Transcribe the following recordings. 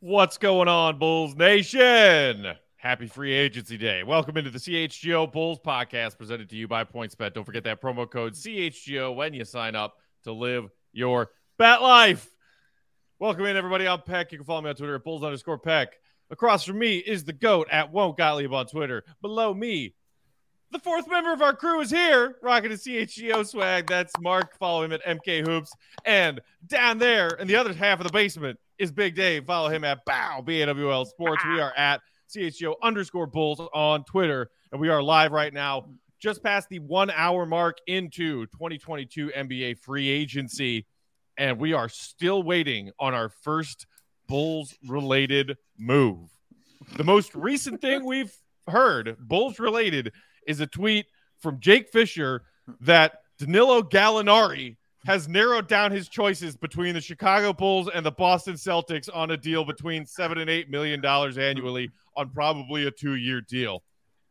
What's going on, Bulls Nation? Happy Free Agency Day. Welcome into the CHGO Bulls podcast presented to you by PointsBet. Don't forget that promo code CHGO when you sign up to live your bet life. Welcome in, everybody. I'm Peck. You can follow me on Twitter at Bulls_Peck. Across from me is the GOAT at Won't Gottlieb on Twitter. Below me, the fourth member of our crew is here, rocking a CHGO swag. That's Mark. Follow him at MK Hoops. And down there in the other half of the basement is Big Dave. Follow him at BAWL Sports. We are at CHGO_Bulls on Twitter. And we are live right now, just past the 1 hour mark into 2022 NBA free agency. And we are still waiting on our first Bulls-related move. The most recent thing we've heard, Bulls-related, is a tweet from Jake Fisher that Danilo Gallinari has narrowed down his choices between the Chicago Bulls and the Boston Celtics on a deal between $7 and $8 million annually on probably a 2-year deal.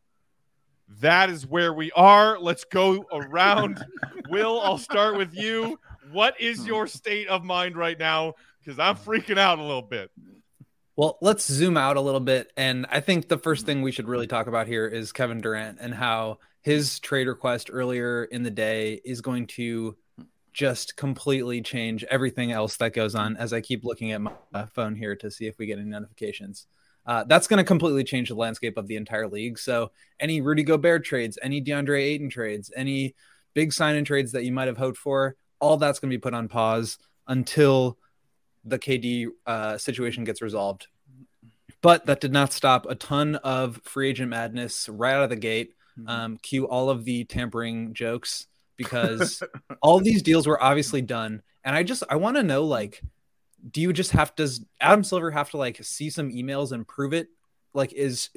That is where we are. Let's go around. Will, I'll start with you. What is your state of mind right now? Because I'm freaking out a little bit. Well, let's zoom out a little bit. And I think the first thing we should really talk about here is Kevin Durant and how his trade request earlier in the day is going to just completely change everything else that goes on. As I keep looking at my phone here to see if we get any notifications. That's going to completely change the landscape of the entire league. So any Rudy Gobert trades, any DeAndre Ayton trades, any big sign-in trades that you might have hoped for, all that's going to be put on pause until the KD situation gets resolved. But that did not stop a ton of free agent madness right out of the gate. Cue all of the tampering jokes because all of these deals were obviously done. And I want to know, like, does Adam Silver have to like see some emails and prove it? Like, is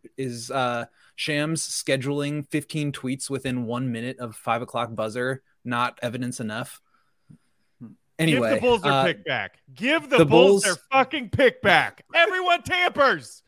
Shams scheduling 15 tweets within 1 minute of 5 o'clock buzzer not evidence enough? Anyway, give the Bulls their pick back. Give the Bulls their fucking pick back. Everyone tampers.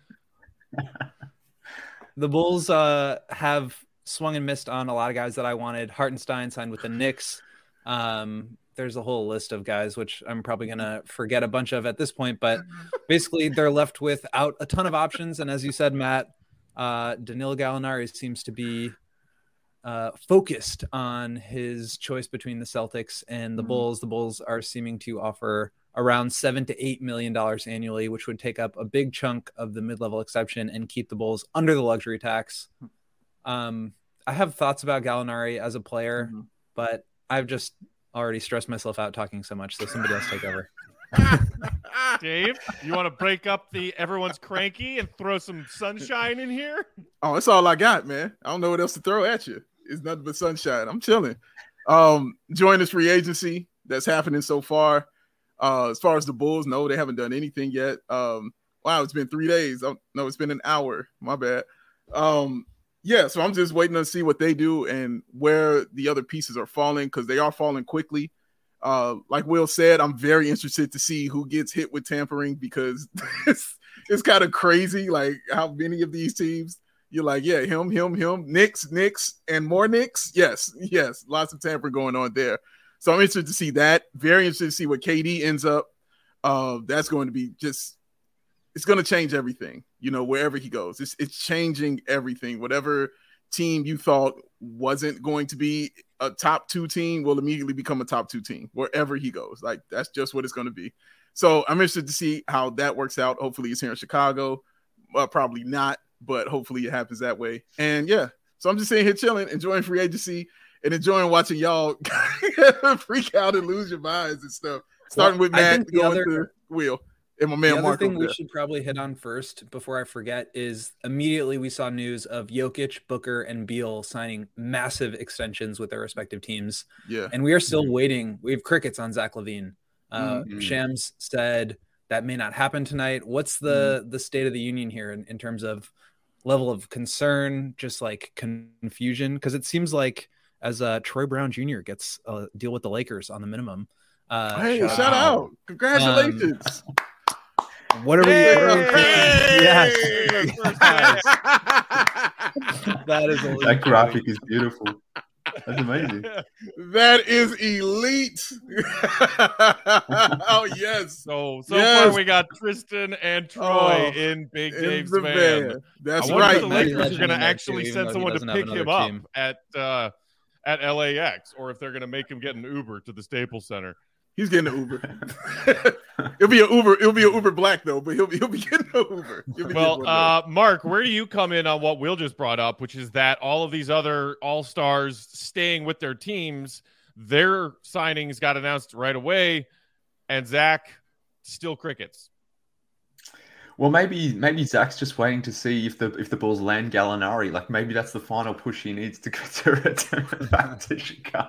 The Bulls have swung and missed on a lot of guys that I wanted. Hartenstein signed with the Knicks. There's a whole list of guys, which I'm probably going to forget a bunch of at this point. But basically, they're left without a ton of options. And as you said, Matt, Danilo Gallinari seems to be focused on his choice between the Celtics and the Bulls. The Bulls are seeming to offer around $7 to $8 million annually, which would take up a big chunk of the mid-level exception and keep the Bulls under the luxury tax. I have thoughts about Gallinari as a player, but I've just already stressed myself out talking so much. So somebody else take over. Dave, you want to break up the everyone's cranky and throw some sunshine in here? Oh, that's all I got, man. I don't know what else to throw at you. It's nothing but sunshine. I'm chilling. Enjoying this free agency that's happening so far. As far as the Bulls, no, they haven't done anything yet. Wow, it's been 3 days. Oh, no, it's been an hour. My bad. Yeah, so I'm just waiting to see what they do and where the other pieces are falling because they are falling quickly. Like Will said, I'm very interested to see who gets hit with tampering because it's kind of crazy, like how many of these teams you're like, yeah, him, Knicks, and more Knicks. Yes, lots of tampering going on there. So I'm interested to see that. Very interested to see what KD ends up. That's going to be it's going to change everything, wherever he goes. It's changing everything. Whatever team you thought wasn't going to be a top 2 team will immediately become a top 2 team wherever he goes. Like, that's just what it's going to be. So I'm interested to see how that works out. Hopefully it's here in Chicago. Probably not, but hopefully it happens that way. And yeah, so I'm just sitting here chilling, enjoying free agency and enjoying watching y'all freak out and lose your minds and stuff. Starting with Matt, going to Will. And my man the Mark other thing we should probably hit on first before I forget is immediately we saw news of Jokic, Booker, and Beal signing massive extensions with their respective teams. Yeah. And we are still waiting. We have crickets on Zach LaVine. Shams said that may not happen tonight. What's the state of the union here in terms of level of concern, just like confusion? Because it seems like as Troy Brown Jr. gets a deal with the Lakers on the minimum. Hey, shout out. Congratulations. What are we? Yes. First time. That is that graphic is beautiful. That's amazing. That is elite. Oh yes. So Yes. far we got Tristan and Troy in Big In Dave's the van. van. That's I wonder right. if the Lakers Legend are going to in there, actually too, send even though he someone to doesn't have pick him another up team. at LAX, or if they're going to make him get an Uber to the Staples Center. He's getting an Uber. It'll be an Uber. It'll be an Uber Black though, but he'll be getting an Uber. Well, Mark, where do you come in on what Will just brought up, which is that all of these other all-stars staying with their teams, their signings got announced right away, and Zach still crickets. Well, maybe Zach's just waiting to see if the Bulls land Gallinari. Like maybe that's the final push he needs to return back to Chicago.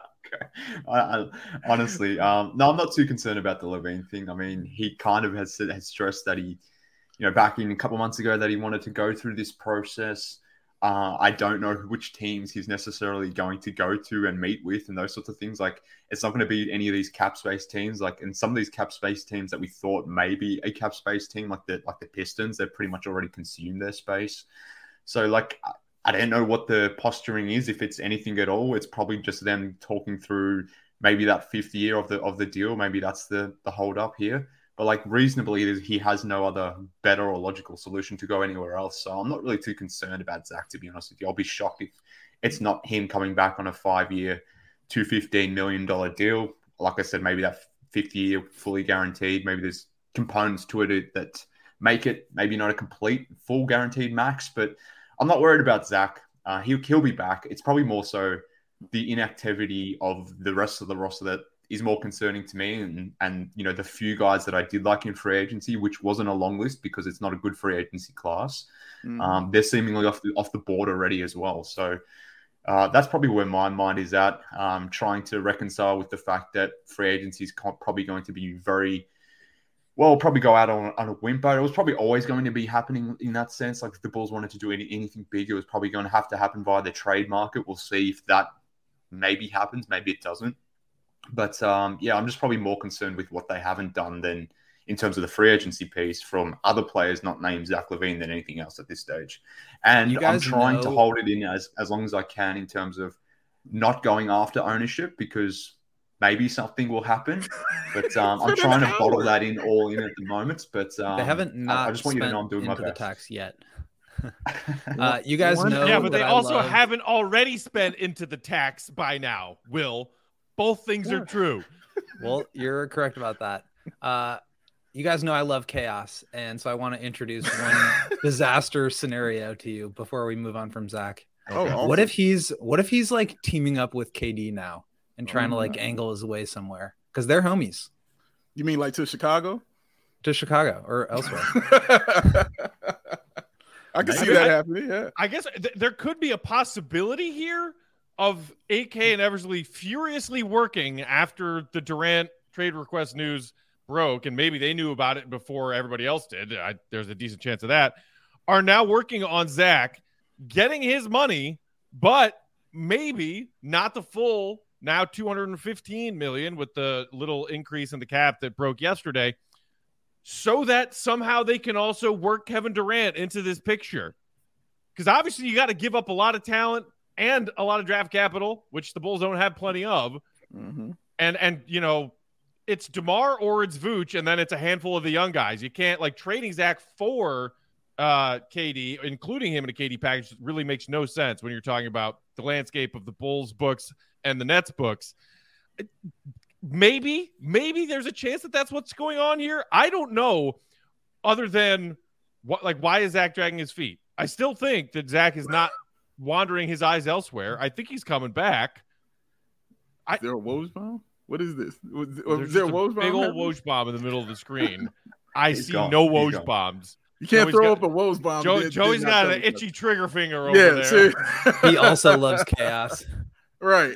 Honestly, no, I'm not too concerned about the LaVine thing. I mean, he kind of has stressed that he, back in a couple months ago that he wanted to go through this process. I don't know which teams he's necessarily going to go to and meet with and those sorts of things. Like, it's not going to be any of these cap space teams. Like, and some of these cap space teams that we thought maybe a cap space team, like the Pistons, they've pretty much already consumed their space. So, like, I don't know what the posturing is. If it's anything at all, it's probably just them talking through maybe that fifth year of the deal. Maybe that's the hold up here. But like reasonably, he has no other better or logical solution to go anywhere else. So I'm not really too concerned about Zach, to be honest with you. I'll be shocked if it's not him coming back on a 5-year, $215 million deal. Like I said, maybe that 5th year fully guaranteed. Maybe there's components to it that make it maybe not a complete full guaranteed max. But I'm not worried about Zach. He'll be back. It's probably more so the inactivity of the rest of the roster that is more concerning to me, and the few guys that I did like in free agency, which wasn't a long list because it's not a good free agency class. They're seemingly off the board already as well. So that's probably where my mind is at. Trying to reconcile with the fact that free agency is probably going to be probably go out on a whimper. It was probably always going to be happening in that sense. Like if the Bulls wanted to do anything big, it was probably going to have to happen via the trade market. We'll see if that maybe happens. Maybe it doesn't. But I'm just probably more concerned with what they haven't done than in terms of the free agency piece from other players not named Zach LaVine than anything else at this stage. And I'm trying to hold it in as long as I can in terms of not going after ownership because maybe something will happen. But I'm trying to bottle that in all in at the moment. But they haven't I just want you to know I'm doing my best. The tax yet. You guys know. Yeah, but they also haven't already spent into the tax by now, Will. Both things are true. Well, you're correct about that. You guys know I love chaos, and so I want to introduce one disaster scenario to you before we move on from Zach. Oh, awesome. What if he's like teaming up with KD now and trying to like angle his way somewhere because they're homies? You mean like to Chicago? To Chicago or elsewhere? I can see that happening. Yeah, I guess there could be a possibility here of AK and Eversley furiously working after the Durant trade request news broke, and maybe they knew about it before everybody else did. There's a decent chance of that. Are now working on Zach, getting his money, but maybe not the full now $215 million with the little increase in the cap that broke yesterday, so that somehow they can also work Kevin Durant into this picture. Because obviously you got to give up a lot of talent and a lot of draft capital, which the Bulls don't have plenty of. Mm-hmm. And it's DeMar or it's Vooch, and then it's a handful of the young guys. You can't, like, trading Zach for KD, including him in a KD package, really makes no sense when you're talking about the landscape of the Bulls books and the Nets books. Maybe there's a chance that that's what's going on here. I don't know, other than why is Zach dragging his feet? I still think that Zach is not wandering his eyes elsewhere. I think he's coming back. Is there a Woj bomb? What is this? Is there a Woj bomb? Big old Woj bomb in the middle of the screen. I see no Woj bombs. You can't throw up a Woj bomb. Joey's got an itchy trigger finger over there. He also loves chaos. Right.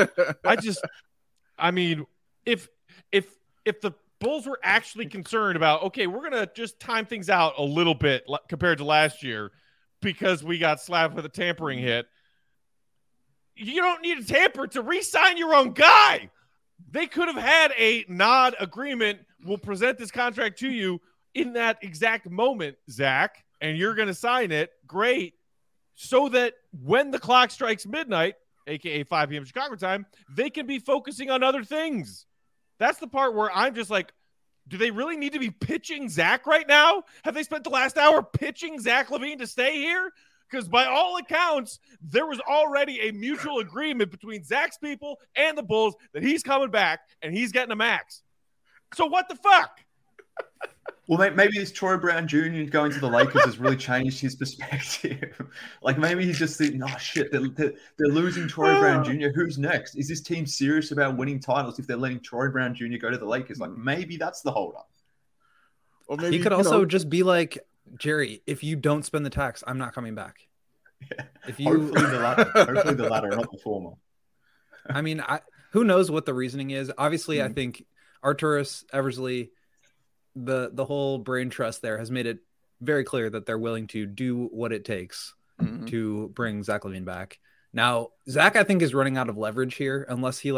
I mean, if the Bulls were actually concerned about, okay, we're going to just time things out a little bit compared to last year because we got slapped with a tampering hit, you don't need a tamper to re-sign your own guy. They could have had a nod agreement. We'll present this contract to you in that exact moment, Zach, and you're going to sign it. Great. So that when the clock strikes midnight, aka 5 p.m. Chicago time, they can be focusing on other things. That's the part where I'm just like, do they really need to be pitching Zach right now? Have they spent the last hour pitching Zach LaVine to stay here? Because by all accounts, there was already a mutual agreement between Zach's people and the Bulls that he's coming back and he's getting a max. So what the fuck? Well, maybe this Troy Brown Jr. going to the Lakers has really changed his perspective. Like maybe he's just thinking, oh shit, they're losing Troy Brown Jr. Who's next? Is this team serious about winning titles if they're letting Troy Brown Jr. go to the Lakers? Like maybe that's the holdup. Or maybe He could also just be like, Jerry, if you don't spend the tax, I'm not coming back. Yeah. If you, Hopefully the latter, not the former. I mean, who knows what the reasoning is? Obviously, I think Arturas Eversley, the whole brain trust there has made it very clear that they're willing to do what it takes to bring Zach LaVine back. Now, Zach, I think, is running out of leverage here unless he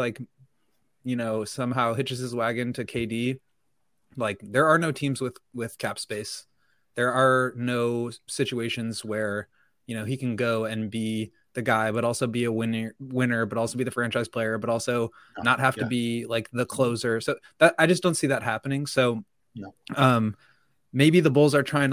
somehow hitches his wagon to KD. Like there are no teams with cap space. There are no situations where, he can go and be the guy, but also be a winner, but also be the franchise player, but also not have to be like the closer. So that I just don't see that happening. So maybe the Bulls are trying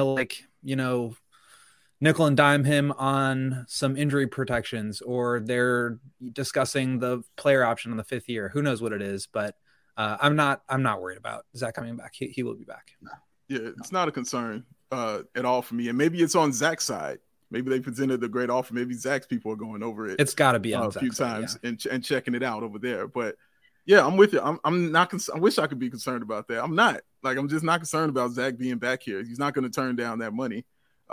to nickel and dime him on some injury protections, or they're discussing the player option on the 5th year. Who knows what it is, but I'm not worried about Zach coming back. He will be back. Yeah, it's not a concern at all for me. And maybe it's on Zach's side. Maybe they presented the great offer. Maybe Zach's people are going over it. It's got to be on a few Zach's side, times and checking it out over there. But yeah, I'm with you. I'm not. I wish I could be concerned about that. I'm not. I'm just not concerned about Zach being back here. He's not going to turn down that money.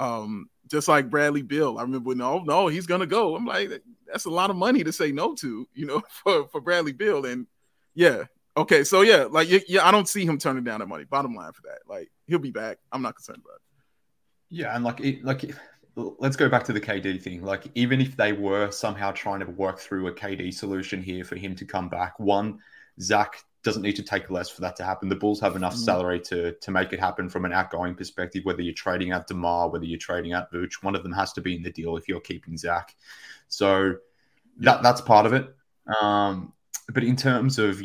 Just like Bradley Beal. I remember no, he's going to go. I'm like, that's a lot of money to say no to, for Bradley Beal. And yeah. Okay. So yeah, I don't see him turning down that money. Bottom line for that. He'll be back. I'm not concerned about it. Yeah. And let's go back to the KD thing. Even if they were somehow trying to work through a KD solution here for him to come back, one, Zach doesn't need to take less for that to happen. The Bulls have enough salary to make it happen from an outgoing perspective, whether you're trading out DeMar, whether you're trading out Vooch, one of them has to be in the deal if you're keeping Zach. So that's part of it. But in terms of,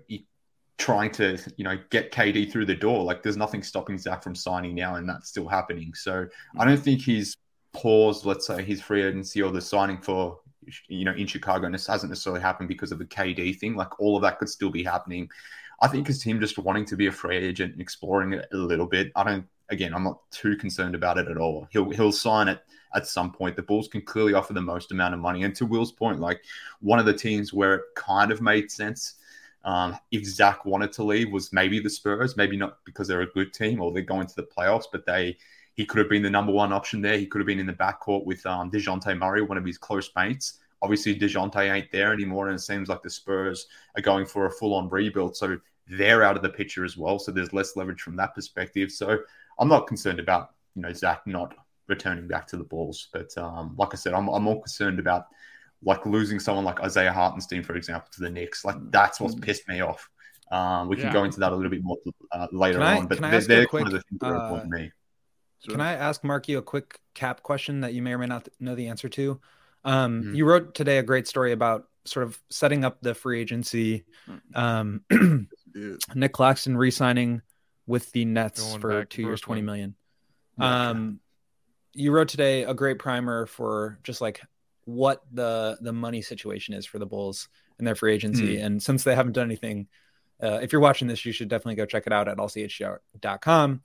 trying to, get KD through the door, there's nothing stopping Zach from signing now, and that's still happening. So I don't think he's paused, let's say, his free agency or the signing for, in Chicago, and this hasn't necessarily happened because of the KD thing. All of that could still be happening. I think it's him just wanting to be a free agent and exploring it a little bit. I'm not too concerned about it at all. He'll sign it at some point. The Bulls can clearly offer the most amount of money. And to Will's point, one of the teams where it kind of made sense if Zach wanted to leave was maybe the Spurs, maybe not because they're a good team or they're going to the playoffs, but he could have been the number one option there. He could have been in the backcourt with DeJounte Murray, one of his close mates. Obviously, DeJounte ain't there anymore, and it seems like the Spurs are going for a full-on rebuild. So they're out of the picture as well. So there's less leverage from that perspective. So I'm not concerned about, Zach not returning back to the Bulls. But like I said, I'm more concerned about losing someone like Isaiah Hartenstein, for example, to the Knicks. That's what's pissed me off. We can go into that a little bit more later on. But they're one of the things that are important to me. Sure. Can I ask Marky a quick cap question that you may or may not know the answer to? You wrote today a great story about sort of setting up the free agency. Nick Claxton re-signing with the Nets for 2 years, $20 million. You wrote today a great primer for just what the money situation is for the Bulls and their free agency. And since they haven't done anything, if you're watching this, you should definitely go check it out at allchgo.com.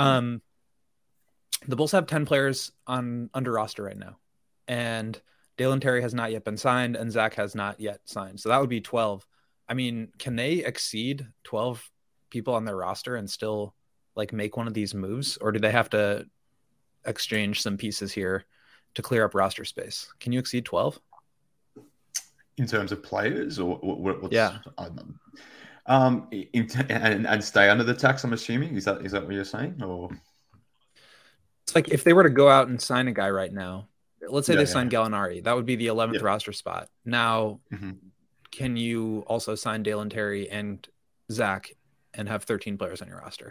The Bulls have 10 players under roster right now, and Dalen Terry has not yet been signed, and Zach has not yet signed. So that would be 12. I mean, can they exceed 12 people on their roster and still make one of these moves, or do they have to exchange some pieces here to clear up roster space? Can you exceed 12 in terms of players, or what's, yeah? And stay under the tax, I'm assuming. Is that what you're saying, or? It's if they were to go out and sign a guy right now, let's say they sign Gallinari, that would be the 11th roster spot. Now, can you also sign Dalen Terry and Zach and have 13 players on your roster?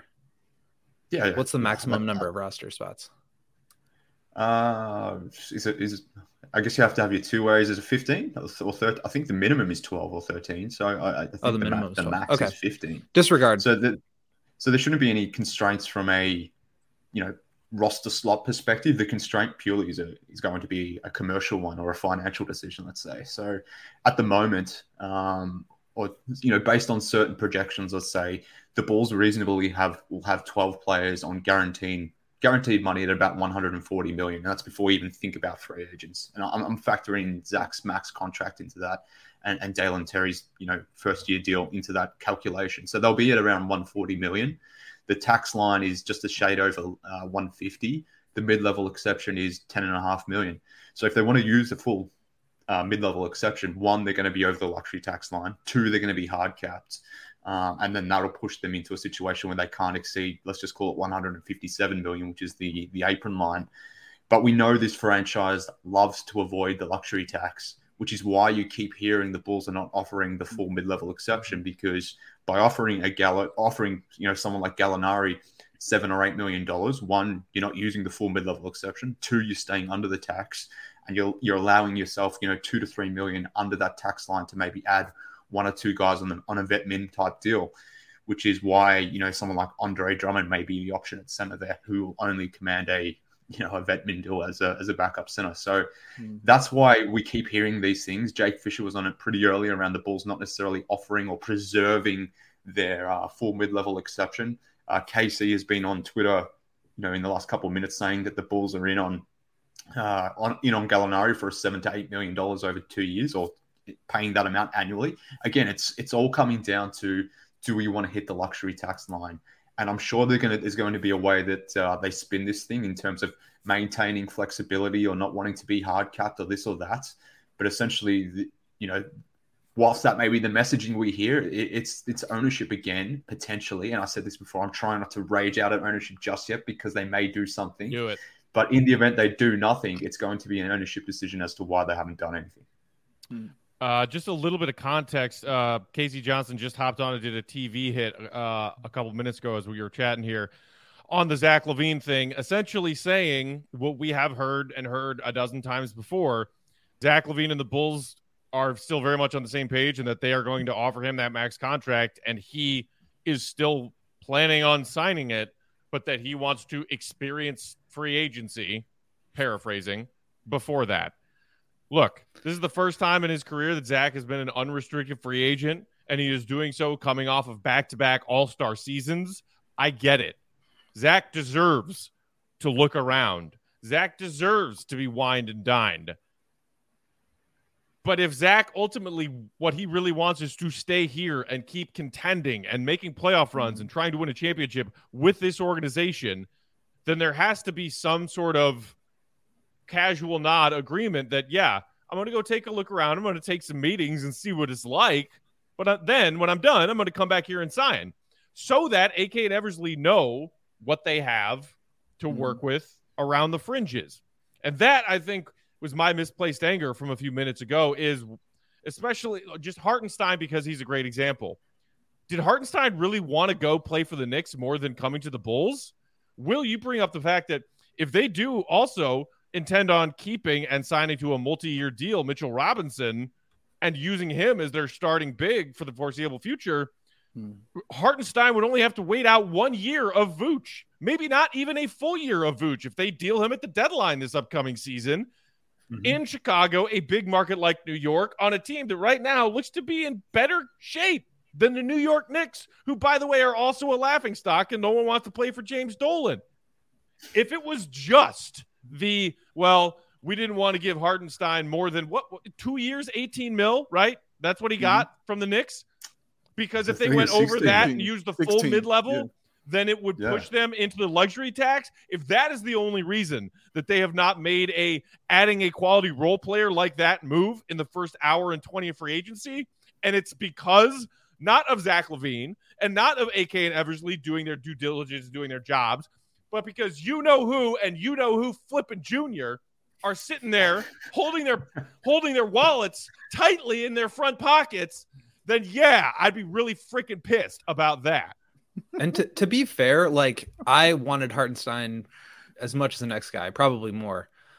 What's the maximum number of roster spots? Is I guess you have to have your two ways as a 15 or 13. I think the minimum is 12 or 13. So I think the max is 15. Disregard. So there shouldn't be any constraints from a, roster slot perspective. The constraint purely is going to be a commercial one or a financial decision, let's say. So at the moment, based on certain projections, let's say the Bulls reasonably will have 12 players on guaranteed money at about $140 million. And that's before we even think about free agents. And I'm factoring Zach's max contract into that and Dalen Terry's, first year deal into that calculation. So they'll be at around $140 million. The tax line is just a shade over 150. The mid-level exception is $10.5 million. So if they want to use the full mid-level exception, one, they're going to be over the luxury tax line. Two, they're going to be hard capped. And then that'll push them into a situation where they can't exceed, let's just call it $157 million, which is the apron line. But we know this franchise loves to avoid the luxury tax, which is why you keep hearing the Bulls are not offering the full mid-level exception, because by offering someone like Gallinari $7 or $8 million, one, you're not using the full mid-level exception. Two, you're staying under the tax, and you're allowing yourself, $2 to $3 million under that tax line to maybe add one or two guys on a vet min type deal, which is why someone like Andre Drummond may be the option at center there, who will only command a vet min deal as a backup center. So that's why we keep hearing these things. Jake Fisher was on it pretty early around the Bulls not necessarily offering or preserving their full mid-level exception. KC has been on Twitter, in the last couple of minutes saying that the Bulls are in on Gallinari for $7 to $8 million over 2 years, or paying that amount annually. Again, it's all coming down to, do we want to hit the luxury tax line? And I'm sure there's going to be a way that they spin this thing in terms of maintaining flexibility or not wanting to be hard capped or this or that. But essentially, whilst that may be the messaging we hear, it's ownership again, potentially. And I said this before, I'm trying not to rage out at ownership just yet, because they may do something. Do it. But in the event they do nothing, it's going to be an ownership decision as to why they haven't done anything. Just a little bit of context. Casey Johnson just hopped on and did a TV hit a couple minutes ago as we were chatting here on the Zach LaVine thing, essentially saying what we have heard a dozen times before. Zach LaVine and the Bulls are still very much on the same page, and that they are going to offer him that max contract, and he is still planning on signing it, but that he wants to experience free agency, paraphrasing, before that. Look, this is the first time in his career that Zach has been an unrestricted free agent, and he is doing so coming off of back-to-back all-star seasons. I get it. Zach deserves to look around. Zach deserves to be wined and dined. But if Zach ultimately, what he really wants is to stay here and keep contending and making playoff runs and trying to win a championship with this organization, then there has to be some sort of casual nod agreement that, yeah, I'm going to go take a look around. I'm going to take some meetings and see what it's like. But then when I'm done, I'm going to come back here and sign, so that AK and Eversley know what they have to work with around the fringes. And that, I think, was my misplaced anger from a few minutes ago, is especially just Hartenstein, because he's a great example. Did Hartenstein really want to go play for the Knicks more than coming to the Bulls? Will, you bring up the fact that if they do also intend on keeping and signing to a multi-year deal Mitchell Robinson and using him as their starting big for the foreseeable future, Hartenstein would only have to wait out 1 year of Vooch, maybe not even a full year of Vooch, if they deal him at the deadline this upcoming season in Chicago, a big market like New York, on a team that right now looks to be in better shape than the New York Knicks, who, by the way, are also a laughingstock, and no one wants to play for James Dolan. If it was just we didn't want to give Hartenstein more than 2 years, 18 mil, right? That's what he got from the Knicks. Because if they went over that and used the full mid-level, then it would push them into the luxury tax. If that is the only reason that they have not made adding a quality role player like that move in the first hour and 20 of free agency, and it's because not of Zach LaVine and not of AK and Eversley doing their due diligence, doing their jobs, but because who and who Flippin' Jr. are sitting there holding their wallets tightly in their front pockets, then yeah, I'd be really freaking pissed about that. And to be fair, like, I wanted Hartenstein as much as the next guy, probably more.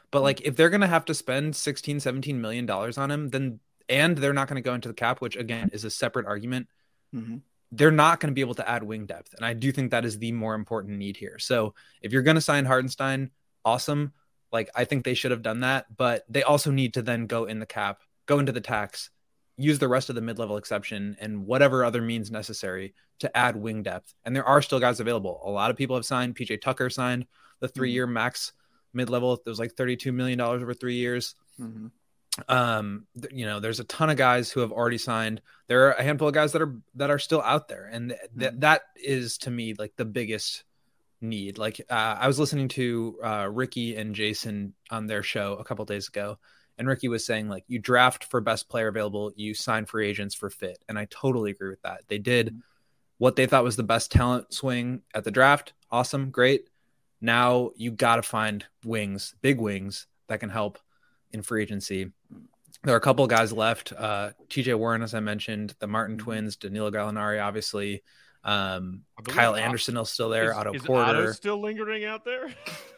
But like, if they're going to have to spend $16-17 million on him, and they're not going to go into the cap, which again is a separate argument. They're not going to be able to add wing depth. And I do think that is the more important need here. So if you're going to sign Hartenstein, awesome. Like, I think they should have done that, but they also need to then go in the cap, go into the tax, use the rest of the mid-level exception and whatever other means necessary to add wing depth. And there are still guys available. A lot of people have signed. PJ Tucker signed the 3-year max mid-level. It was like $32 million over 3 years. There's a ton of guys who have already signed. There are a handful of guys that are still out there. And that is, to me, like the biggest need. Like I was listening to Ricky and Jason on their show a couple days ago, and Ricky was saying, like, you draft for best player available, you sign free agents for fit. And I totally agree with that. They did what they thought was the best talent swing at the draft. Awesome. Great. Now you got to find wings, big wings that can help in free agency. There are a couple of guys left. TJ Warren, as I mentioned, the Martin twins, Danilo Gallinari, obviously. Kyle Anderson is still there. Otto Porter. Otto still lingering out there?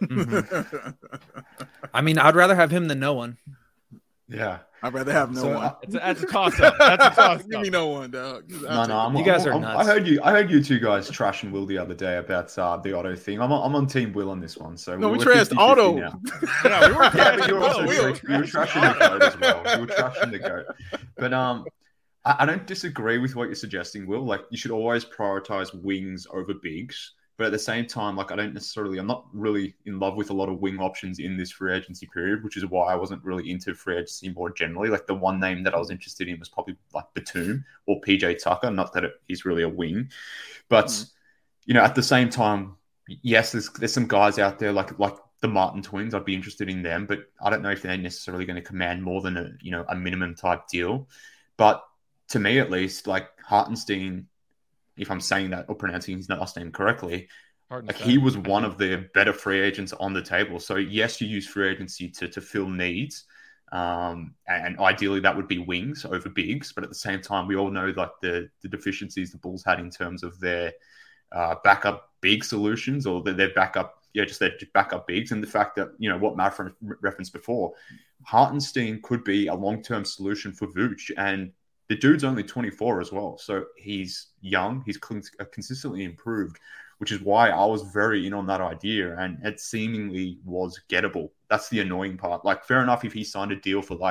I mean, I'd rather have him than no one. Yeah, I'd rather have no one. That's a toss-up. That's a toss-up. Give me no one, dog. You guys are nuts. I heard you two guys trashing Will the other day about the Otto thing. I'm on Team Will on this one. So no, we trashed Otto. Yeah, we were trashing the goat as well. You were trashing the goat. But I don't disagree with what you're suggesting, Will. Like, you should always prioritize wings over bigs. But at the same time, like, I'm not really in love with a lot of wing options in this free agency period, which is why I wasn't really into free agency more generally. Like, the one name that I was interested in was probably like Batum or PJ Tucker. Not that he's really a wing, but at the same time, yes, there's some guys out there like the Martin twins. I'd be interested in them, but I don't know if they're necessarily going to command more than a minimum type deal. But to me, at least, like Hartenstein, if I'm saying that or pronouncing his last name correctly, like, he was one of the better free agents on the table. So yes, you use free agency to fill needs. And ideally that would be wings over bigs. But at the same time, we all know like the deficiencies the Bulls had in terms of their backup big solutions or their backup, just their backup bigs. And the fact that, what Matt referenced before, Hartenstein could be a long-term solution for Vooch. And the dude's only 24 as well. So he's young. He's consistently improved, which is why I was very in on that idea. And it seemingly was gettable. That's the annoying part. Like, fair enough if he signed a deal for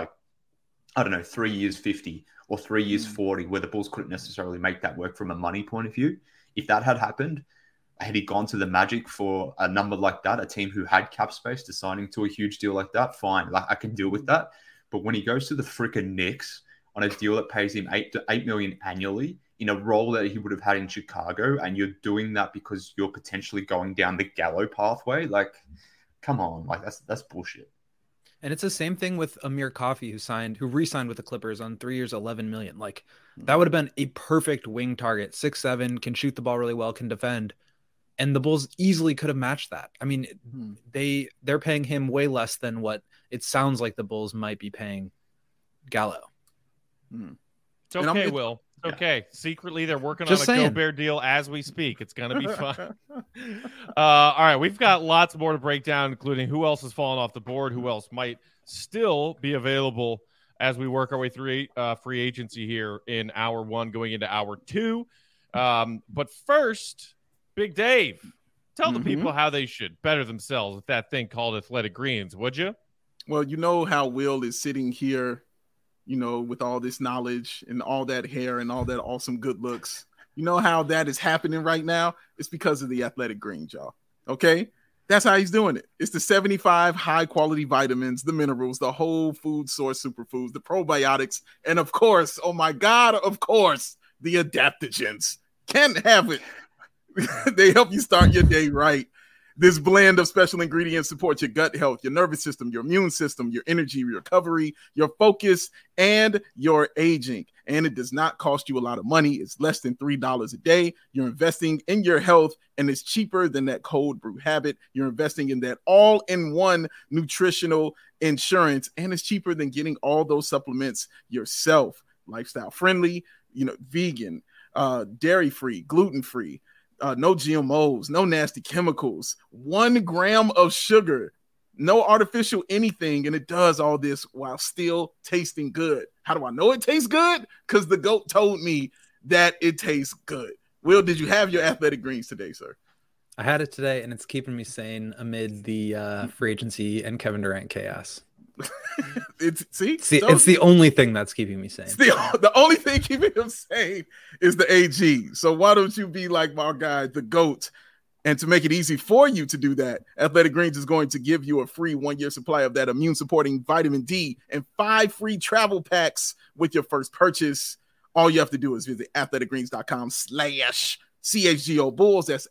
3 years 50 or 3 years 40, where the Bulls couldn't necessarily make that work from a money point of view. If that had happened, had he gone to the Magic for a number like that, a team who had cap space to signing to a huge deal like that, fine. Like, I can deal with that. But when he goes to the freaking Knicks on a deal that pays him $8 million annually in a role that he would have had in Chicago, and you're doing that because you're potentially going down the Gallo pathway, like, come on, like that's bullshit. And it's the same thing with Amir Coffey, who re-signed with the Clippers on 3 years, $11 million. Like, that would have been a perfect wing target. 6'7", can shoot the ball really well, can defend. And the Bulls easily could have matched that. I mean, they're paying him way less than what it sounds like the Bulls might be paying Gallo. It's okay, Will. It's okay. Secretly, they're working on a Gobert deal as we speak. It's going to be fun. All right. We've got lots more to break down, including who else has fallen off the board, who else might still be available as we work our way through free agency here in hour one, going into hour two. But first, Big Dave, tell the people how they should better themselves with that thing called Athletic Greens, would you? Well, you know how Will is sitting here, with all this knowledge and all that hair and all that awesome good looks. You know how that is happening right now? It's because of the Athletic Greens, y'all. Okay? That's how he's doing it. It's the 75 high-quality vitamins, the minerals, the whole food source superfoods, the probiotics, and of course, oh my God, of course, the adaptogens. Can't have it. They help you start your day right. This blend of special ingredients supports your gut health, your nervous system, your immune system, your energy, your recovery, your focus, and your aging. And it does not cost you a lot of money. It's less than $3 a day. You're investing in your health, and it's cheaper than that cold brew habit. You're investing in that all-in-one nutritional insurance, and it's cheaper than getting all those supplements yourself. Lifestyle friendly, vegan, dairy-free, gluten-free. No GMOs, no nasty chemicals, 1 gram of sugar, no artificial anything, and it does all this while still tasting good. How do I know it tastes good? Because the GOAT told me that it tastes good. Will, did you have your Athletic Greens today, sir? I had it today, and it's keeping me sane amid the free agency and Kevin Durant chaos. It's the only thing that's keeping me sane. The only thing keeping him sane is the AG. So why don't you be like my guy, the GOAT? And to make it easy for you to do that, Athletic Greens is going to give you a free 1-year supply of that immune-supporting vitamin D and 5 free travel packs with your first purchase. All you have to do is visit athleticgreens.com/CHGO Bulls. That's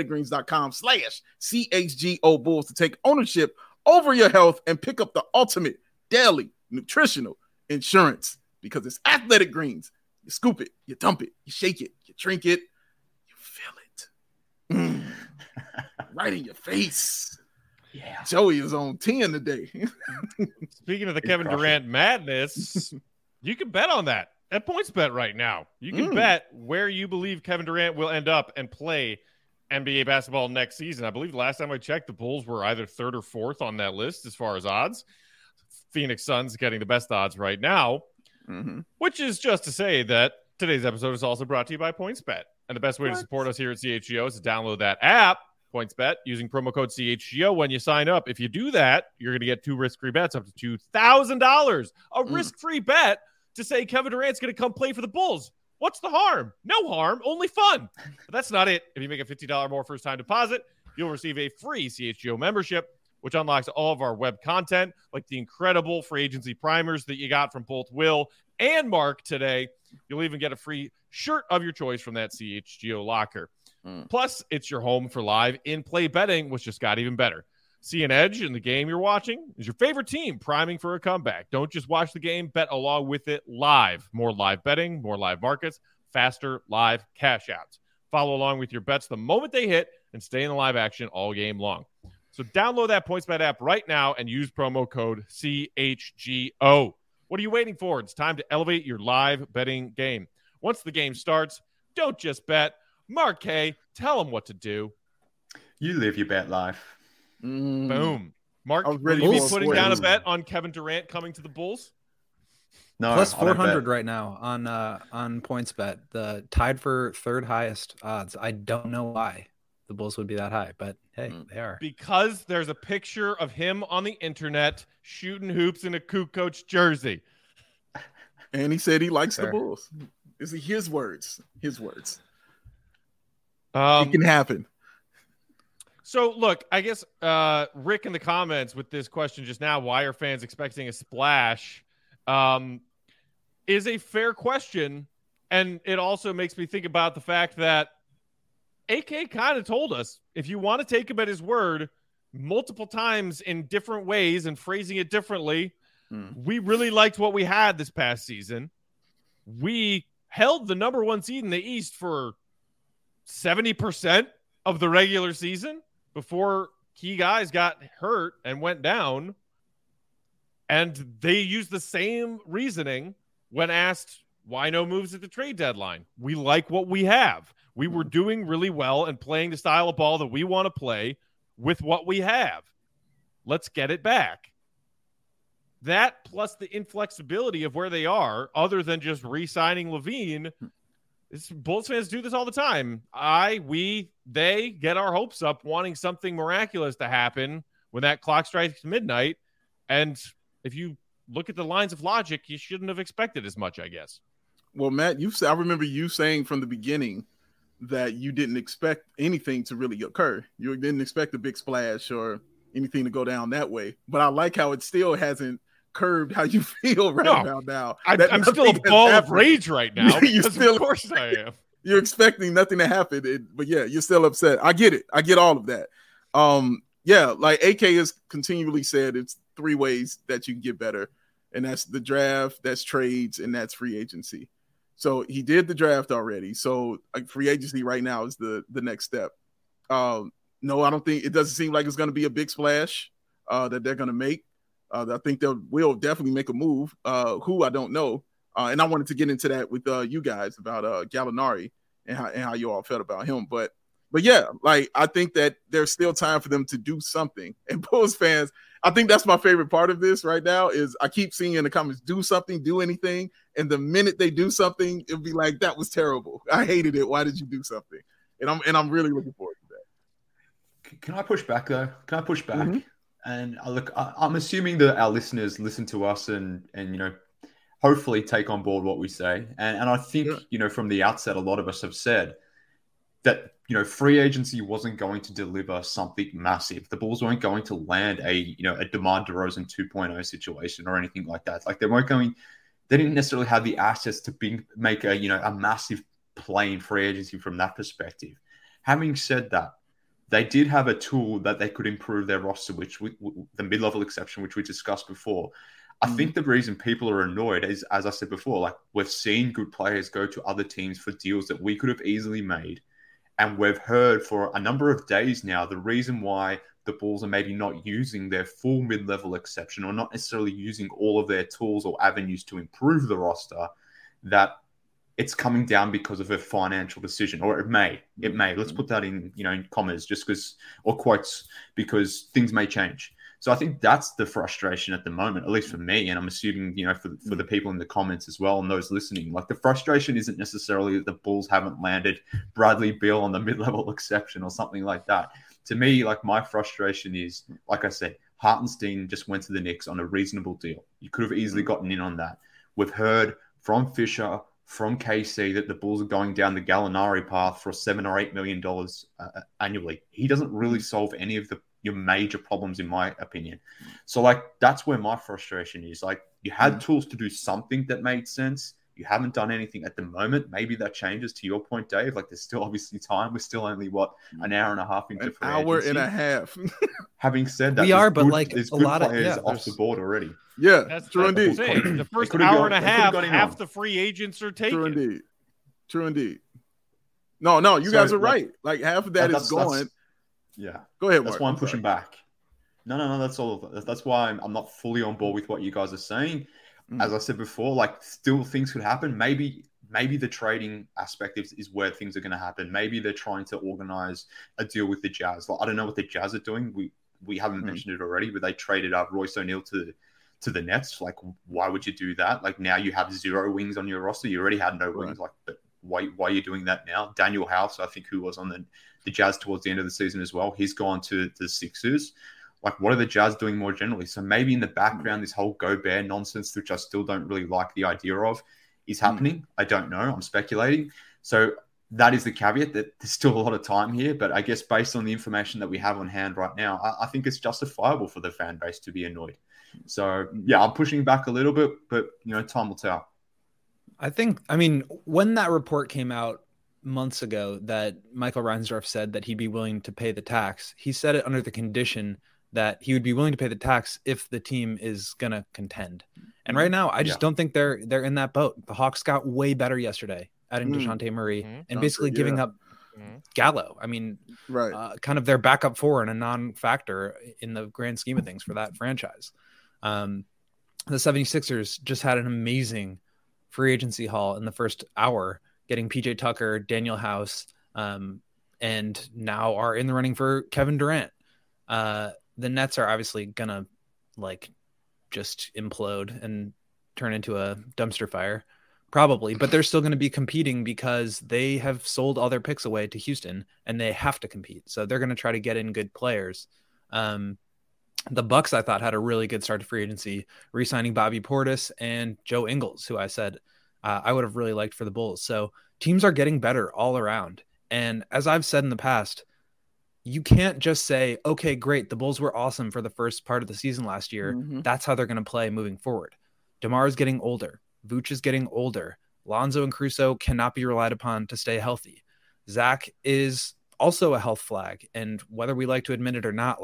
athleticgreens.com/CHGO Bulls to take ownership over your health and pick up the ultimate daily nutritional insurance, because it's Athletic Greens. You scoop it, you dump it, you shake it, you drink it, you feel it. Right in your face. Yeah. Joey is on 10 today. Speaking of the Kevin Durant madness, you can bet on that at PointsBet right now. You can bet where you believe Kevin Durant will end up and play NBA basketball next season. I believe the last time I checked, the Bulls were either 3rd or 4th on that list as far as odds. Phoenix Suns getting the best odds right now, which is just to say that today's episode is also brought to you by PointsBet. And the best way to support us here at CHGO is to download that app, PointsBet, using promo code CHGO when you sign up. If you do that, you're going to get 2 risk-free bets up to $2,000. A risk-free bet to say Kevin Durant's going to come play for the Bulls. What's the harm? No harm, only fun. But that's not it. If you make a $50 more first-time deposit, you'll receive a free CHGO membership, which unlocks all of our web content, like the incredible free agency primers that you got from both Will and Mark today. You'll even get a free shirt of your choice from that CHGO locker. Plus, it's your home for live in-play betting, which just got even better. See an edge in the game you're watching? Is your favorite team priming for a comeback? Don't just watch the game, bet along with it live. More live betting, more live markets, faster live cash outs. Follow along with your bets the moment they hit and stay in the live action all game long. So download that PointsBet app right now and use promo code CHGO. What are you waiting for? It's time to elevate your live betting game. Once the game starts, don't just bet. Mark K, tell them what to do. You live your bet life. Boom. Mark, will you be putting down a bet on Kevin Durant coming to the Bulls? No, plus 400 right now on PointsBet. The tied for 3rd highest odds. I don't know why the Bulls would be that high, but hey, they are. Because there's a picture of him on the internet shooting hoops in a Kukoc jersey. And he said he likes the Bulls. Is his words? His words. It can happen. So, look, I guess Rick in the comments with this question just now, why are fans expecting a splash, is a fair question. And it also makes me think about the fact that AK kind of told us, if you want to take him at his word multiple times in different ways and phrasing it differently, we really liked what we had this past season. We held the number 1 seed in the East for 70% of the regular season before key guys got hurt and went down. And they used the same reasoning when asked why no moves at the trade deadline. We like what we have. We were doing really well and playing the style of ball that we want to play with what we have. Let's get it back. That plus the inflexibility of where they are, other than just re-signing LaVine. Bulls fans do this all the time. They get our hopes up wanting something miraculous to happen when that clock strikes midnight. And if you look at the lines of logic, you shouldn't have expected as much, I guess. Well, Matt, I remember you saying from the beginning that you didn't expect anything to really occur. You didn't expect a big splash or anything to go down that way. But I like how it still hasn't curbed how you feel about now. I'm still a ball of rage right now. Of course I am. You're expecting nothing to happen, but yeah, you're still upset. I get it. I get all of that. Like AK has continually said, it's 3 ways that you can get better, and that's the draft, that's trades, and that's free agency. So he did the draft already. So free agency right now is the next step. No, I don't think it doesn't seem like it's going to be a big splash that they're going to make. I think they will definitely make a move. Who I don't know. And I wanted to get into that with you guys about Gallinari and how you all felt about him. But yeah, like I think that there's still time for them to do something. And Bulls fans, I think that's my favorite part of this right now is I keep seeing in the comments, do something, do anything. And the minute they do something, it'll be like, that was terrible. I hated it. Why did you do something? And I'm really looking forward to that. Can I push back though? Can I push back? Mm-hmm. And I'm assuming that our listeners listen to us and hopefully take on board what we say. And I think, from the outset, a lot of us have said that, free agency wasn't going to deliver something massive. The Bulls weren't going to land a DeMar DeRozan 2.0 situation or anything like that. Like they didn't necessarily have the assets to make a massive play in free agency from that perspective. Having said that, they did have a tool that they could improve their roster, which the mid-level exception, which we discussed before. I think the reason people are annoyed is, as I said before, like we've seen good players go to other teams for deals that we could have easily made. And we've heard for a number of days now, the reason why the Bulls are maybe not using their full mid-level exception or not necessarily using all of their tools or avenues to improve the roster, that it's coming down because of a financial decision, or it may. Let's put that in commas, just because, or quotes, because things may change. So I think that's the frustration at the moment, at least for me, and I'm assuming for the people in the comments as well and those listening. Like the frustration isn't necessarily that the Bulls haven't landed Bradley Beal on the mid-level exception or something like that. To me, like my frustration is, like I said, Hartenstein just went to the Knicks on a reasonable deal. You could have easily gotten in on that. We've heard from Fisher, from KC, that the Bulls are going down the Gallinari path for $7 or $8 million annually. He doesn't really solve any of your major problems, in my opinion. So, like, that's where my frustration is. Like, you had tools to do something that made sense. You haven't done anything at the moment. Maybe that changes, to your point, Dave. Like, there's still obviously time. We're still only, an hour and a half into free agency. An hour and a half. Having said that, there's good a lot players of off the board already. Yeah, that's true indeed. The first hour and a half, half the free agents are taken. True indeed. No, you guys are right. Like half of that is gone. Yeah. Go ahead, Mark. That's why I'm pushing back. No. That's all. That's why I'm not fully on board with what you guys are saying. As I said before, like still things could happen. Maybe the trading aspect is where things are going to happen. Maybe they're trying to organize a deal with the Jazz. Like, I don't know what the Jazz are doing. We haven't mentioned it already, but they traded up Royce O'Neal to the Nets. Like, why would you do that? Like, now you have 0 wings on your roster. You already had no wings. Like, but why are you doing that now? Daniel House, I think, who was on the Jazz towards the end of the season as well, he's gone to the Sixers. Like, what are the Jazz doing more generally? So maybe in the background, this whole Gobert nonsense, which I still don't really like the idea of, is happening. I don't know. I'm speculating. So that is the caveat, that there's still a lot of time here. But I guess based on the information that we have on hand right now, I think it's justifiable for the fan base to be annoyed. So, yeah, I'm pushing back a little bit, but, time will tell. I mean, when that report came out months ago that Michael Reinsdorf said that he'd be willing to pay the tax, he said it under the condition that he would be willing to pay the tax if the team is going to contend. And right now, I just don't think they're in that boat. The Hawks got way better yesterday, adding DeJounte Murray and basically giving up Gallo. I mean, kind of their backup four and a non-factor in the grand scheme of things for that franchise. The 76ers just had an amazing free agency haul in the first hour, getting PJ Tucker, Daniel House, and now are in the running for Kevin Durant. The Nets are obviously gonna just implode and turn into a dumpster fire, probably, but they're still going to be competing because they have sold all their picks away to Houston and they have to compete. So they're going to try to get in good players. The Bucks, I thought, had a really good start to free agency, re-signing Bobby Portis and Joe Ingles, who I said I would have really liked for the Bulls. So teams are getting better all around. And as I've said in the past, you can't just say, okay, great, the Bulls were awesome for the first part of the season last year. That's how they're going to play moving forward. DeMar is getting older. Vooch is getting older. Lonzo and Caruso cannot be relied upon to stay healthy. Zach is also a health flag. And whether we like to admit it or not,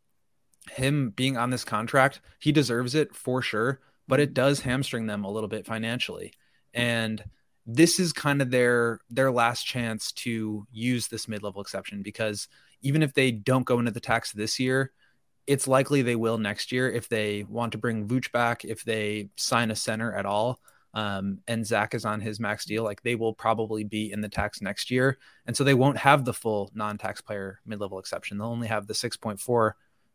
him being on this contract, he deserves it for sure, but it does hamstring them a little bit financially. And this is kind of their last chance to use this mid-level exception, because even if they don't go into the tax this year, it's likely they will next year if they want to bring Vooch back, if they sign a center at all, and Zach is on his max deal, they will probably be in the tax next year. And so they won't have the full non-tax player mid-level exception. They'll only have the $6.4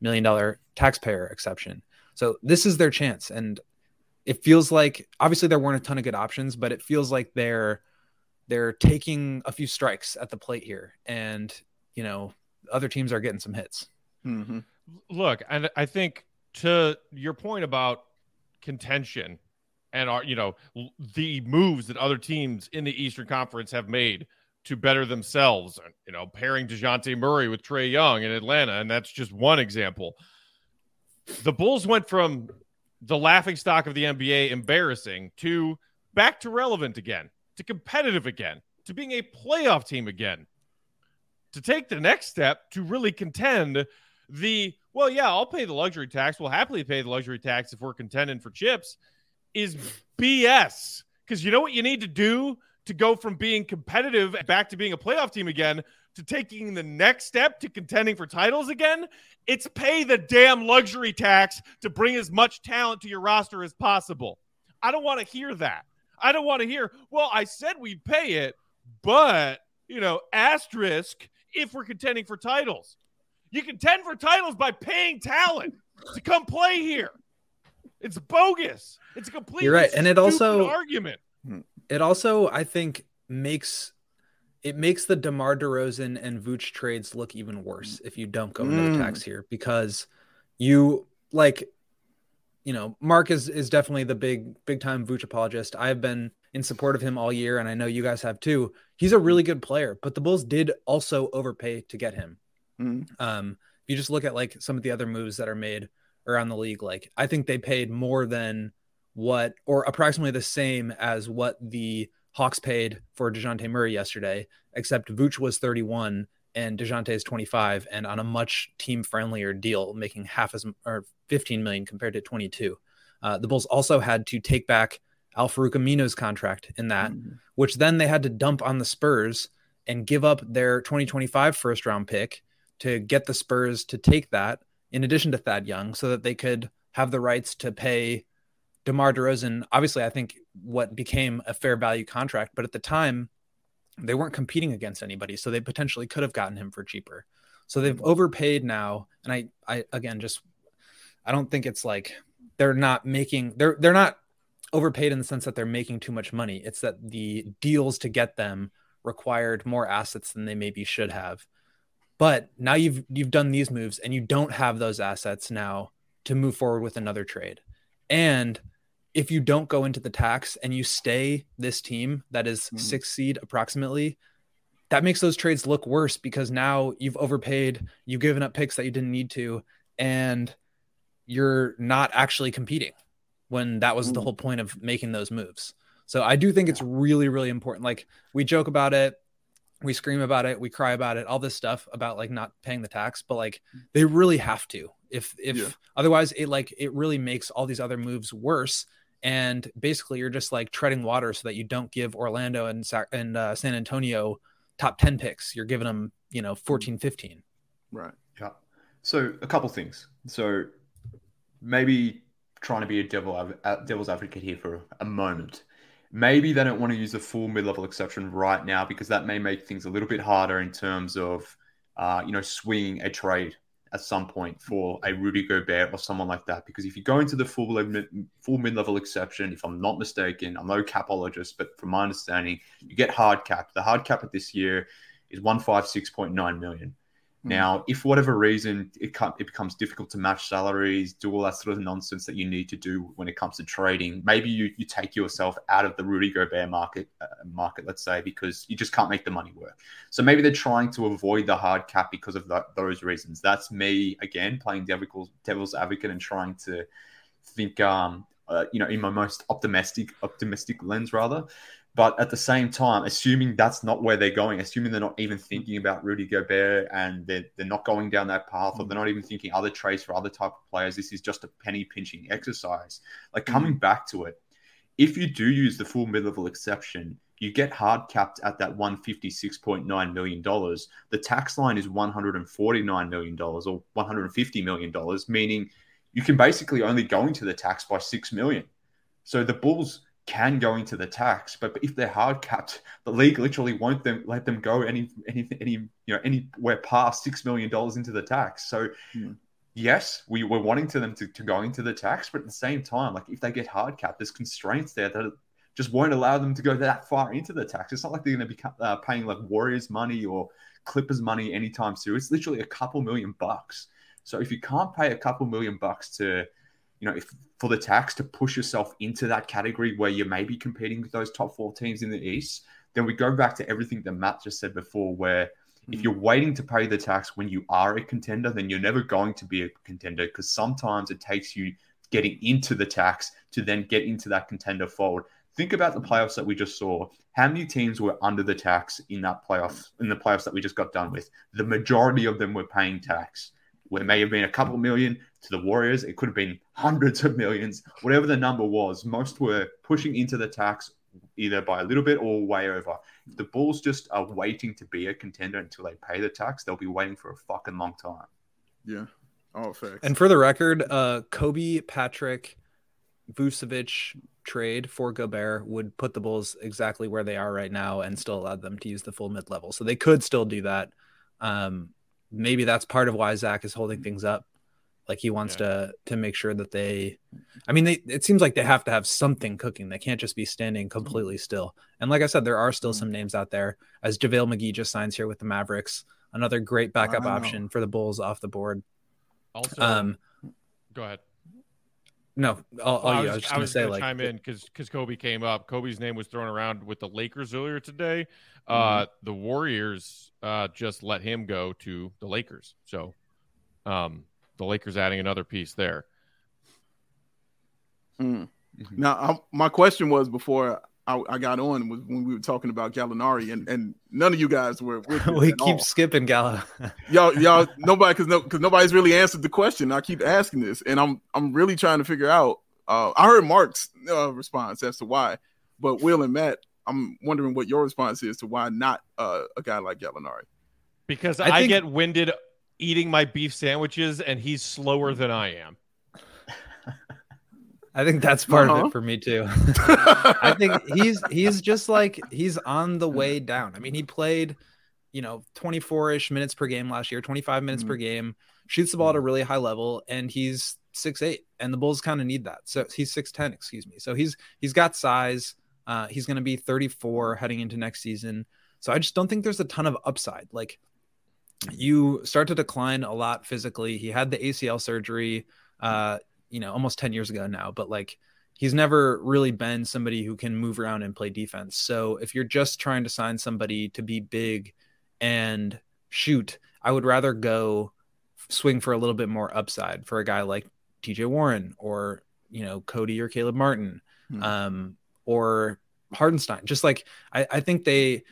million taxpayer exception. So this is their chance. And it feels like, obviously there weren't a ton of good options, but it feels like they're taking a few strikes at the plate here. And, other teams are getting some hits. Mm-hmm. Look, and I think to your point about contention and the moves that other teams in the Eastern Conference have made to better themselves, pairing DeJounte Murray with Trae Young in Atlanta, and that's just one example. The Bulls went from the laughingstock of the NBA, embarrassing, to back to relevant again, to competitive again, to being a playoff team again. To take the next step to really contend I'll pay the luxury tax. We'll happily pay the luxury tax if we're contending for chips is BS. Because you know what you need to do to go from being competitive back to being a playoff team again to taking the next step to contending for titles again? It's pay the damn luxury tax to bring as much talent to your roster as possible. I don't want to hear that. I don't want to hear, I said we'd pay it, but, asterisk if we're contending for titles. You contend for titles by paying talent to come play here. It's bogus. It's a completely You're right. And it also argument. It also, I think, makes the DeMar DeRozan and Vooch trades look even worse if you don't go into the tax here, because Mark is definitely the big time Vooch apologist. I've been in support of him all year, and I know you guys have too. He's a really good player, but the Bulls did also overpay to get him. If you just look at some of the other moves that are made around the league, I think they paid more than or approximately the same as what the Hawks paid for DeJounte Murray yesterday, except Vooch was 31 and DeJounte is 25, and on a much team friendlier deal, making or 15 million compared to 22. The Bulls also had to take back Al-Farouq Amino's contract in that, which then they had to dump on the Spurs and give up their 2025 first round pick to get the Spurs to take that in addition to Thad Young, so that they could have the rights to pay DeMar DeRozan. Obviously, I think what became a fair value contract, but at the time they weren't competing against anybody. So they potentially could have gotten him for cheaper. So they've overpaid now. And I don't think it's they're not overpaid in the sense that they're making too much money. It's that the deals to get them required more assets than they maybe should have. But now you've done these moves and you don't have those assets now to move forward with another trade. And if you don't go into the tax and you stay this team that is 6th seed approximately, that makes those trades look worse, because now you've overpaid, you've given up picks that you didn't need to, and you're not actually competing when that was the whole point of making those moves. So I do think it's really, really important. We joke about it, we scream about it, we cry about it, all this stuff about not paying the tax, but they really have to. If otherwise it really makes all these other moves worse. And basically you're just treading water so that you don't give Orlando and San Antonio top 10 picks. You're giving them, 14, 15. Right. Yeah. So a couple things. So maybe trying to be a devil's advocate here for a moment. Maybe they don't want to use the full mid-level exception right now, because that may make things a little bit harder in terms of, swinging a trade at some point for a Rudy Gobert or someone like that. Because if you go into the full mid-level exception, if I'm not mistaken, I'm no capologist, but from my understanding, you get hard cap. The hard cap of this year is $156.9 million. Now, if for whatever reason it becomes difficult to match salaries, do all that sort of nonsense that you need to do when it comes to trading, maybe you take yourself out of the Rudy Gobert market, let's say, because you just can't make the money work. So maybe they're trying to avoid the hard cap because of those reasons. That's me, again, playing devil's advocate and trying to think, in my most optimistic lens, rather. But at the same time, assuming that's not where they're going, assuming they're not even thinking about Rudy Gobert and they're not going down that path, or they're not even thinking other trades for other type of players, this is just a penny pinching exercise. Coming back to it, if you do use the full mid-level exception, you get hard capped at that $156.9 million. The tax line is $149 million or $150 million, meaning you can basically only go into the tax by $6 million. So the Bulls can go into the tax, but if they're hard capped, the league literally won't let them go anywhere past $6 million into the tax. So yes, we're wanting them to go into the tax, but at the same time, like if they get hard capped, there's constraints there that just won't allow them to go that far into the tax. It's not like they're going to be paying like Warriors money or Clippers money anytime soon. It's literally a couple $1,000,000. So if you can't pay a couple $1,000,000 to, for the tax to push yourself into that category where you may be competing with those top 4 teams in the East, then we go back to everything that Matt just said before, where if you're waiting to pay the tax when you are a contender, then you're never going to be a contender, because sometimes it takes you getting into the tax to then get into that contender fold. Think about the playoffs that we just saw. How many teams were under the tax in the playoffs that we just got done with? The majority of them were paying tax. Where it may have been a couple million to the Warriors, it could have been hundreds of millions. Whatever the number was, most were pushing into the tax either by a little bit or way over. If the Bulls just are waiting to be a contender until they pay the tax, they'll be waiting for a fucking long time. Yeah. All facts. And for the record, Kobe, Patrick, Vucevic trade for Gobert would put the Bulls exactly where they are right now and still allow them to use the full mid-level. So they could still do that. Maybe that's part of why Zach is holding things up. Like he wants to make sure that it seems like they have to have something cooking. They can't just be standing completely still. And like I said, there are still some names out there, as JaVale McGee just signs here with the Mavericks, another great backup option for the Bulls off the board. Also, go ahead. No, I was just going to say, chime in because Kobe came up. Kobe's name was thrown around with the Lakers earlier today. The Warriors just let him go to the Lakers. So the Lakers adding another piece there. Now, my question was before I got on was when we were talking about Gallinari, and none of you guys were with we keep skipping Gallo. y'all nobody because nobody's really answered the question. I keep asking this, and I'm really trying to figure out. I heard Mark's response as to why, but Will and Matt, I'm wondering what your response is to why not a guy like Gallinari. Because I get winded eating my beef sandwiches, and he's slower than I am. I think that's part of it for me too. I think he's just like, he's on the way down. I mean, he played, 24-ish minutes per game last year, 25 minutes per game, shoots the ball at a really high level, and he's 6'8", and the Bulls kind of need that. So he's 6'10", excuse me. So he's got size. He's going to be 34 heading into next season. So I just don't think there's a ton of upside. Like, you start to decline a lot physically. He had the ACL surgery, almost 10 years ago now, but like, he's never really been somebody who can move around and play defense. So if you're just trying to sign somebody to be big and shoot, I would rather go swing for a little bit more upside for a guy like TJ Warren or, Cody or Caleb Martin, or Hardenstein. Just like, I think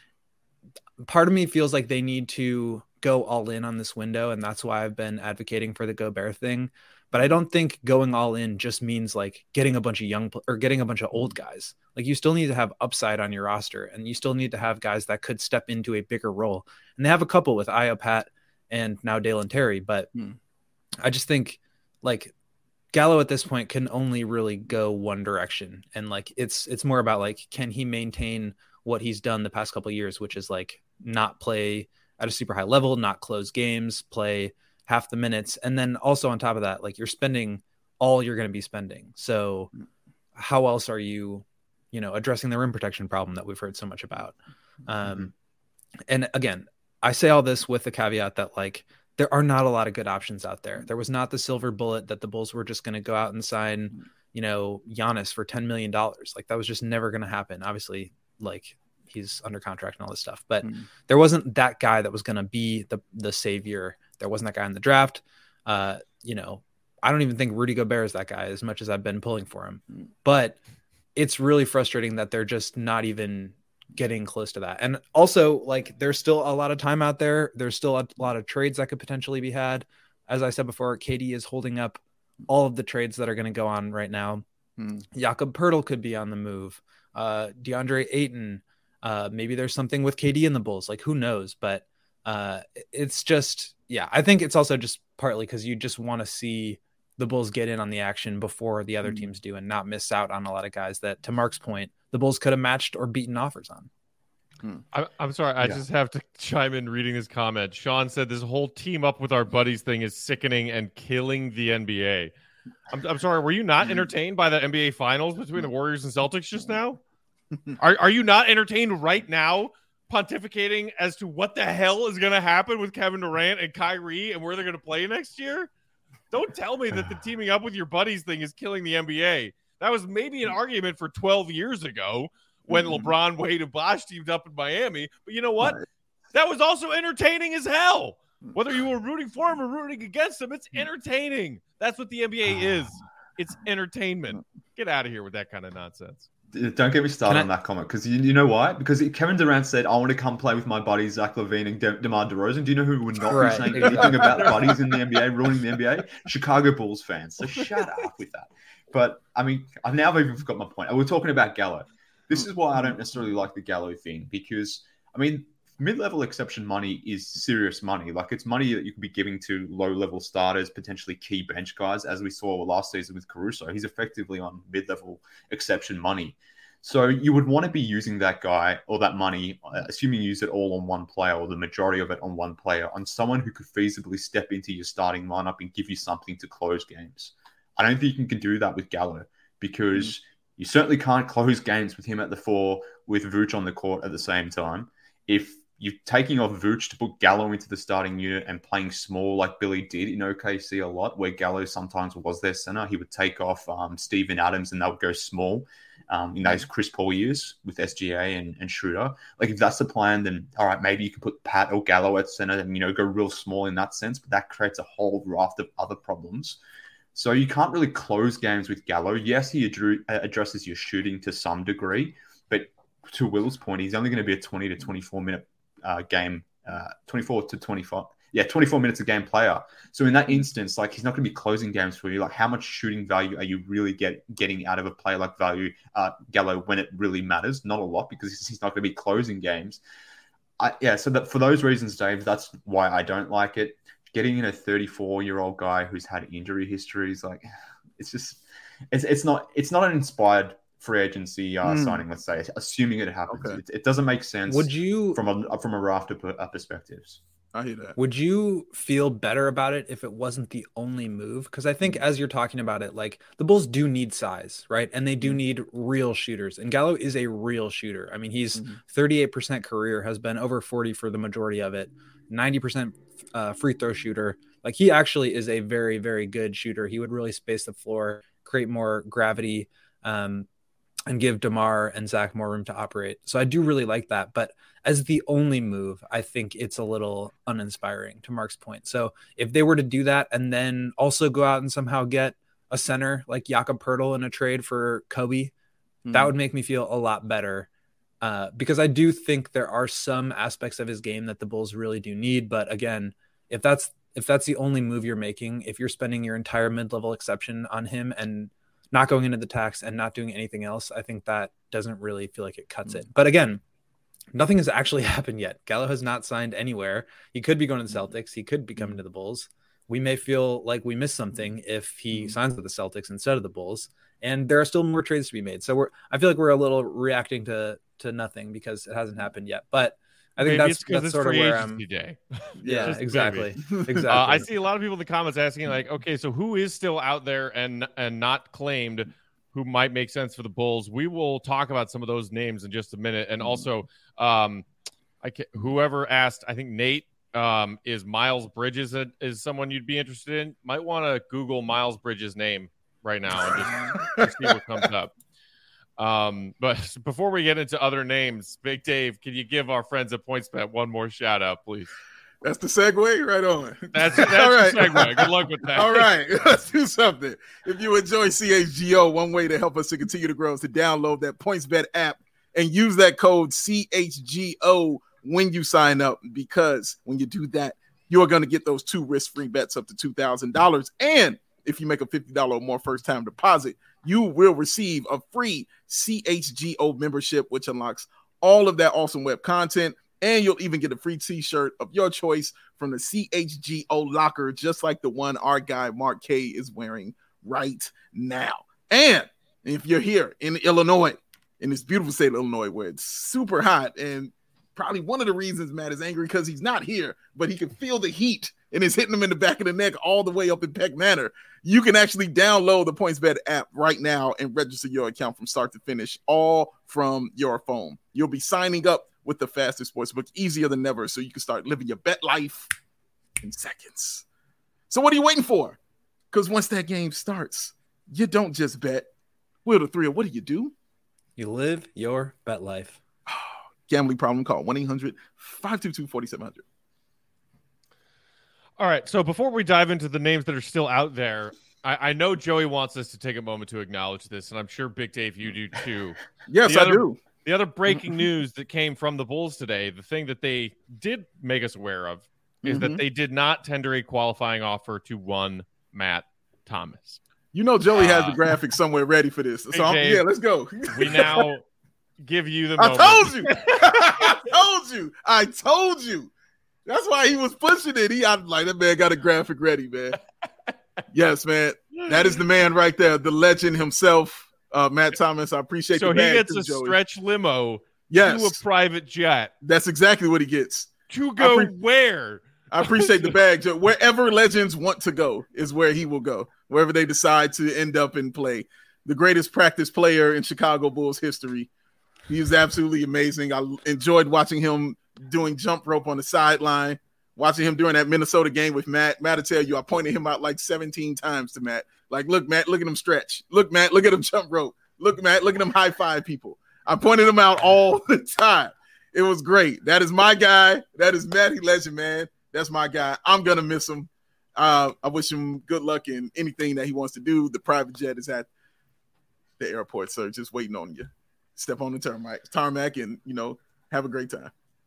part of me feels like they need to go all in on this window. And that's why I've been advocating for the Gobert thing. But I don't think going all in just means like getting a bunch of getting a bunch of old guys. Like, you still need to have upside on your roster, and you still need to have guys that could step into a bigger role. And they have a couple with Io Pat and now Dalen Terry. But I just think like Gallo at this point can only really go one direction. And like, it's more about like, can he maintain what he's done the past couple of years, which is like not play at a super high level, not close games, play half the minutes. And then also on top of that, like, you're spending all you're going to be spending. So how else are you, addressing the rim protection problem that we've heard so much about? And again, I say all this with the caveat that like, there are not a lot of good options out there. There was not the silver bullet that the Bulls were just going to go out and sign, Giannis for $10 million. Like, that was just never going to happen. Obviously, like, he's under contract and all this stuff, but there wasn't that guy that was going to be the savior. There wasn't that guy in the draft. I don't even think Rudy Gobert is that guy, as much as I've been pulling for him. But it's really frustrating that they're just not even getting close to that. And also, like, there's still a lot of time out there. There's still a lot of trades that could potentially be had. As I said before, KD is holding up all of the trades that are going to go on right now. Jakob Poeltl could be on the move. DeAndre Ayton. Maybe there's something with KD in the Bulls. Like, who knows? But it's just, I think it's also just partly because you just want to see the Bulls get in on the action before the other teams do, and not miss out on a lot of guys that, to Mark's point, the Bulls could have matched or beaten offers on. I'm sorry. I just have to chime in reading this comment. Sean said this whole team up with our buddies thing is sickening and killing the NBA. I'm sorry. Were you not entertained by the NBA finals between the Warriors and Celtics just now? Are you not entertained right now pontificating as to what the hell is going to happen with Kevin Durant and Kyrie and where they're going to play next year? Don't tell me that the teaming up with your buddies thing is killing the NBA. That was maybe an argument for 12 years ago when LeBron, Wade, and Bosh teamed up in Miami. But you know what? That was also entertaining as hell. Whether you were rooting for him or rooting against him, it's entertaining. That's what the NBA is. It's entertainment. Get out of here with that kind of nonsense. Don't get me started on that comment, because you know why? Because Kevin Durant said, I want to come play with my buddies Zach LaVine and DeMar DeRozan. Do you know who would not be saying anything about buddies in the NBA, ruining the NBA? Chicago Bulls fans. So shut up with that. But, I mean, I've even forgot my point. We're talking about Gallo. This is why I don't necessarily like the Gallo thing, because, I mean, mid-level exception money is serious money. Like, it's money that you could be giving to low-level starters, potentially key bench guys, as we saw last season with Caruso. He's effectively on mid-level exception money. So you would want to be using that guy or that money, assuming you use it all on one player or the majority of it on one player, on someone who could feasibly step into your starting lineup and give you something to close games. I don't think you can do that with Gallo, because you certainly can't close games with him at the 4 with Vooch on the court at the same time. If you're taking off Vooch to put Gallo into the starting unit and playing small like Billy did in OKC a lot, where Gallo sometimes was their center, he would take off Steven Adams and they would go small in those Chris Paul years with SGA and Schroeder. Like, if that's the plan, then all right, maybe you can put Pat or Gallo at center and, go real small in that sense, but that creates a whole raft of other problems. So you can't really close games with Gallo. Yes, he addresses your shooting to some degree, but to Will's point, he's only going to be a 20 to 24 minute game, 24 to 25. Yeah, 24 minutes a game player. So in that instance, like, he's not going to be closing games for you. Like, how much shooting value are you really getting out of a player like Gallo when it really matters? Not a lot, because he's not going to be closing games. So that for those reasons, Dave, that's why I don't like it. Getting in a 34-year-old guy who's had injury histories, like, it's not an inspired free agency signing. Let's say, assuming it happens, it doesn't make sense. Would you, from a raft of perspectives? I hear that. Would you feel better about it if it wasn't the only move? Because I think as you're talking about it, like, the Bulls do need size, right? And they do need real shooters. And Gallo is a real shooter. I mean, he's 38% career, has been over 40 for the majority of it, 90% free throw shooter. Like, he actually is a very, very good shooter. He would really space the floor, create more gravity, and give DeMar and Zach more room to operate. So I do really like that. But as the only move, I think it's a little uninspiring, to Mark's point. So if they were to do that and then also go out and somehow get a center like Jakob Poeltl in a trade for Kobe, that would make me feel a lot better. Because I do think there are some aspects of his game that the Bulls really do need. But again, if that's the only move you're making, if you're spending your entire mid-level exception on him and not going into the tax and not doing anything else, I think that doesn't really feel like it cuts it. But again, nothing has actually happened yet. Gallo has not signed anywhere. He could be going to the Celtics. He could be coming to the Bulls. We may feel like we missed something if he signs with the Celtics instead of the Bulls. And there are still more trades to be made. So I feel like we're a little reacting to nothing because it hasn't happened yet. But I think that's sort of where I'm. Day. Yeah, exactly. Exactly. I see a lot of people in the comments asking, like, okay, so who is still out there and not claimed, who might make sense for the Bulls? We will talk about some of those names in just a minute. And also, whoever asked, I think Nate, is Miles Bridges is someone you'd be interested in? Might want to Google Miles Bridges' name right now and just see what comes up. But before we get into other names, Big Dave, can you give our friends at PointsBet one more shout out, please? That's the segue, right on. That's all right. The segue. Good luck with that. All right, let's do something. If you enjoy CHGO, one way to help us to continue to grow is to download that PointsBet app and use that code CHGO when you sign up, because when you do that, you're going to get those 2 risk-free bets up to $2,000. And if you make a $50 or more first-time deposit, you will receive a free CHGO membership, which unlocks all of that awesome web content. And you'll even get a free t-shirt of your choice from the CHGO locker, just like the one our guy Mark K is wearing right now. And if you're here in Illinois, in this beautiful state of Illinois, where it's super hot and probably one of the reasons Matt is angry, because he's not here, but he can feel the heat and it's hitting him in the back of the neck all the way up in Peck Manor. You can actually download the PointsBet app right now and register your account from start to finish, all from your phone. You'll be signing up with the fastest sportsbook, easier than ever, so you can start living your bet life in seconds. So what are you waiting for? Because once that game starts, you don't just bet. Wheel the thrill. What do? You live your bet life. Gambling problem, call 1-800-522-4700. All right. So before we dive into the names that are still out there, I know Joey wants us to take a moment to acknowledge this, and I'm sure Big Dave, you do too. Yes, I do. The other breaking news that came from the Bulls today, the thing that they did make us aware of, is that they did not tender a qualifying offer to one Matt Thomas. You know Joey has the graphic somewhere ready for this. So let's go. We now give you the moment. I told you. That's why he was pushing it. That man got a graphic ready, man. Yes, man. That is the man right there, the legend himself, Matt Thomas. I appreciate so the bag he gets too, a Joey. stretch limo to a private jet. That's exactly what he gets. To go where? I appreciate the bag, Joe. Wherever legends want to go is where he will go. Wherever they decide to end up and play. The greatest practice player in Chicago Bulls history. He was absolutely amazing. I enjoyed watching him doing jump rope on the sideline, watching him during that Minnesota game with Matt. Matt will tell you, I pointed him out like 17 times to Matt. Like, look, Matt, look at him stretch. Look, Matt, look at him jump rope. Look, Matt, look at him high five people. I pointed him out all the time. It was great. That is my guy. That is Matty Legend, man. That's my guy. I'm going to miss him. I wish him good luck in anything that he wants to do. The private jet is at the airport, sir, just waiting on you. Step on the tarmac and, have a great time.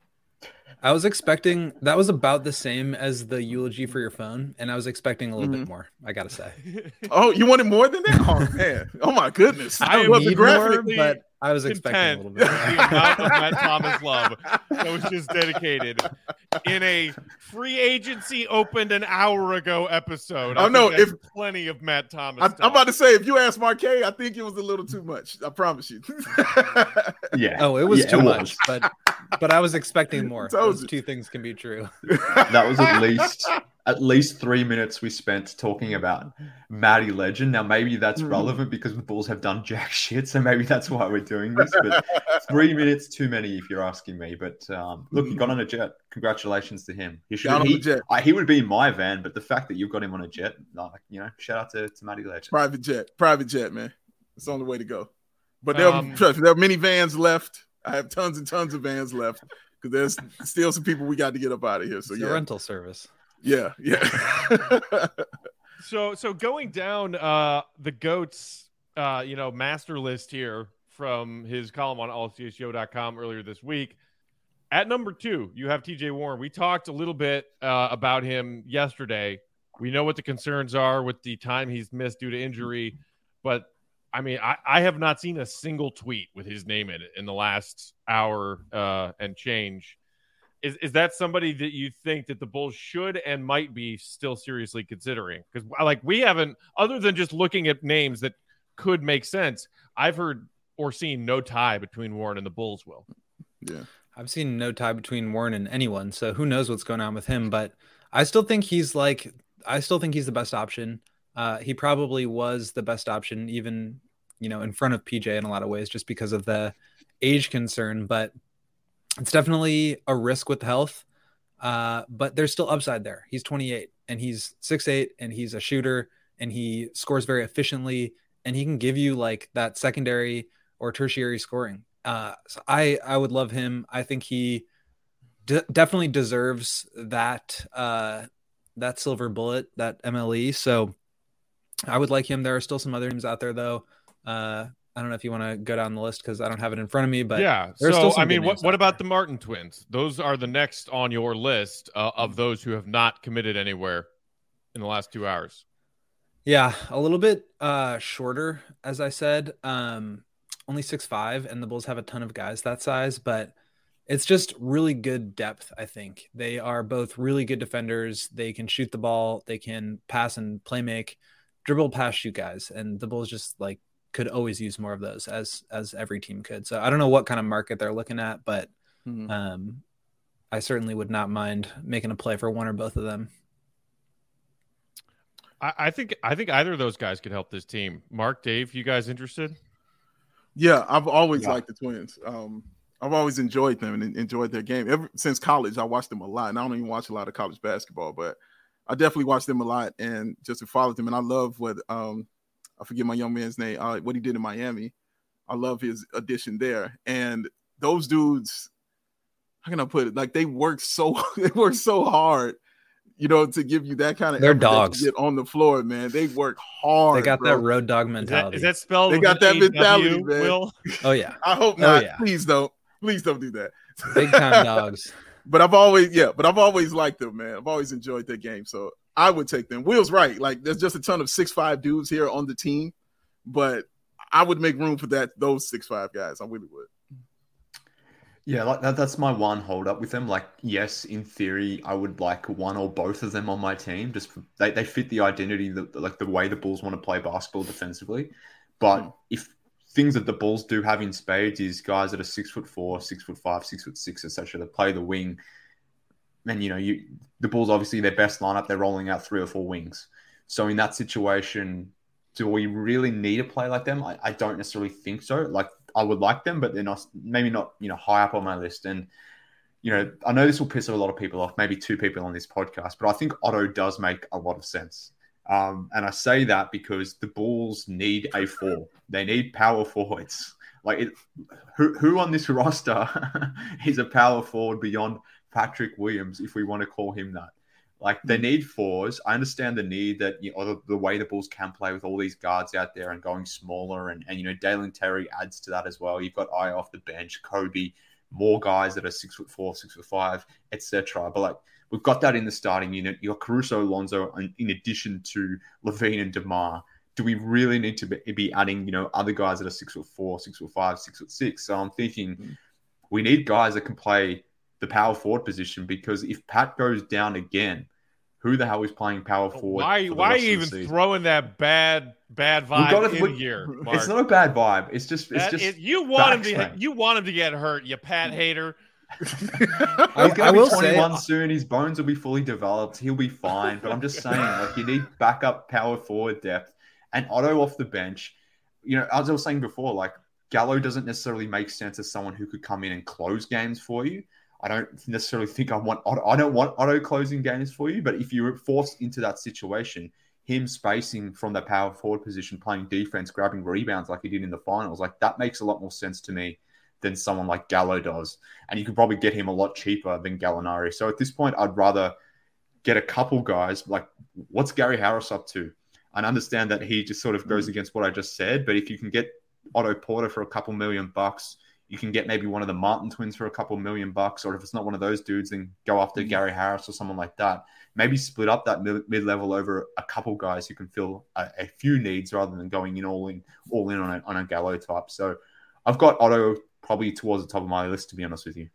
I was expecting that was about the same as the eulogy for your phone, and I was expecting a little bit more, I gotta say. Oh, you wanted more than that? Oh man! Oh my goodness! I don't need more, but I was expecting a little bit more. The amount of Matt Thomas love that was just dedicated in a free agency opened an hour ago episode. I know if plenty of Matt Thomas. I'm about to say, if you ask Marquet, I think it was a little too much. I promise you. Yeah. Oh, it was too much, but I was expecting more. Those two things can be true. That was at least 3 minutes we spent talking about Matty Legend. Now, maybe that's relevant because the Bulls have done jack shit, so maybe that's why we're doing this. But 3 minutes too many, if you're asking me. But look, he got on a jet. Congratulations to him. He would be in my van, but the fact that you've got him on a jet, shout out to Matty Legend. Private jet, man. It's the only way to go. But there are many vans left. I have tons and tons of vans left because there's still some people we got to get up out of here. So it's a rental service. Yeah. So going down the GOAT's master list here from his column on allchgo.com earlier this week. At number 2, you have TJ Warren. We talked a little bit about him yesterday. We know what the concerns are with the time he's missed due to injury, but I mean, I have not seen a single tweet with his name in it in the last hour and change. Is that somebody that you think that the Bulls should and might be still seriously considering? Because we haven't, other than just looking at names that could make sense, I've heard or seen no tie between Warren and the Bulls, Will. Yeah. I've seen no tie between Warren and anyone, so who knows what's going on with him, but I still think he's the best option. He probably was the best option, even, in front of PJ in a lot of ways, just because of the age concern, but it's definitely a risk with health. But there's still upside there. He's 28 and he's 6'8" and he's a shooter and he scores very efficiently and he can give you like that secondary or tertiary scoring. So I would love him. I think he definitely deserves that silver bullet, that MLE. So I would like him. There are still some other names out there though. I don't know if you want to go down the list because I don't have it in front of me, but yeah. So I mean, what about the Martin twins? Those are the next on your list of those who have not committed anywhere in the last 2 hours. Yeah, a little bit shorter, as I said. Only 6'5", and the Bulls have a ton of guys that size, but it's just really good depth, I think. They are both really good defenders. They can shoot the ball. They can pass and play make, dribble, pass, shoot guys. And the Bulls just could always use more of those as every team could. So I don't know what kind of market they're looking at, but I certainly would not mind making a play for one or both of them. I think either of those guys could help this team. Mark, Dave, you guys interested? Yeah, I've always liked the Twins. I've always enjoyed them and enjoyed their game. Ever since college, I watched them a lot. And I don't even watch a lot of college basketball, but I definitely watched them a lot and just followed them. And I love what I forget my young man's name, what he did in Miami. I love his addition there. And those dudes, how can I put it? Like they work so hard, to give you that kind of they're dogs get on the floor, man. They work hard. They got bro. that road dog mentality. Is that spelled? They got that mentality, man. Will? Oh yeah. I hope not. Yeah. Please don't do that. Big time dogs. But I've always liked them, man. I've always enjoyed their game. So I would take them. Will's right. Like there's just a ton of 6'5" dudes here on the team, but I would make room for those 6'5" guys. I really would. Yeah, like that's my one hold up with them. Like, yes, in theory, I would like one or both of them on my team. Just they fit the identity, like the way the Bulls want to play basketball defensively. But if things that the Bulls do have in spades is guys that are 6'4", 6'5", 6'6", etc. that play the wing, and the Bulls obviously their best lineup, they're rolling out 3 or 4 wings. So in that situation, do we really need a play like them? I don't necessarily think so. Like I would like them, but they're not high up on my list. And I know this will piss a lot of people off, maybe 2 people on this podcast, but I think Otto does make a lot of sense. And I say that because the Bulls need a 4. They need power forwards. Like who on this roster is a power forward beyond Patrick Williams, if we want to call him that? Like they need 4s. I understand the need that the way the Bulls can play with all these guards out there and going smaller, and Dalen Terry adds to that as well. You've got Aya off the bench, Kobe, more guys that are 6'4", 6'5", etc. But like we've got that in the starting unit. You got Caruso, Alonzo, in addition to Levine and DeMar. Do we really need to be adding other guys that are 6'4", 6'5", 6'6"? So I'm thinking we need guys that can play the power forward position, because if Pat goes down again, who the hell is playing power forward? Why are you even throwing that bad vibe in here, Mark? It's not a bad vibe. It's just you want him to get hurt, you Pat hater. I will say 21 soon. His bones will be fully developed. He'll be fine. But I'm just saying, like, you need backup power forward depth. And Otto off the bench, as I was saying before, like Gallo doesn't necessarily make sense as someone who could come in and close games for you. I don't necessarily think I don't want Otto closing games for you, but if you're forced into that situation, him spacing from the power forward position, playing defense, grabbing rebounds like he did in the finals, like that makes a lot more sense to me than someone like Gallo does. And you could probably get him a lot cheaper than Gallinari. So at this point, I'd rather get a couple guys. Like, what's Gary Harris up to? I understand that he just sort of goes against what I just said, but if you can get Otto Porter for a couple $1 million, you can get maybe one of the Martin twins for a couple $1 million, or if it's not one of those dudes, then go after Gary Harris or someone like that. Maybe split up that mid-level over a couple guys who can fill a few needs rather than going all in on a Gallo type. So I've got Otto probably towards the top of my list, to be honest with you.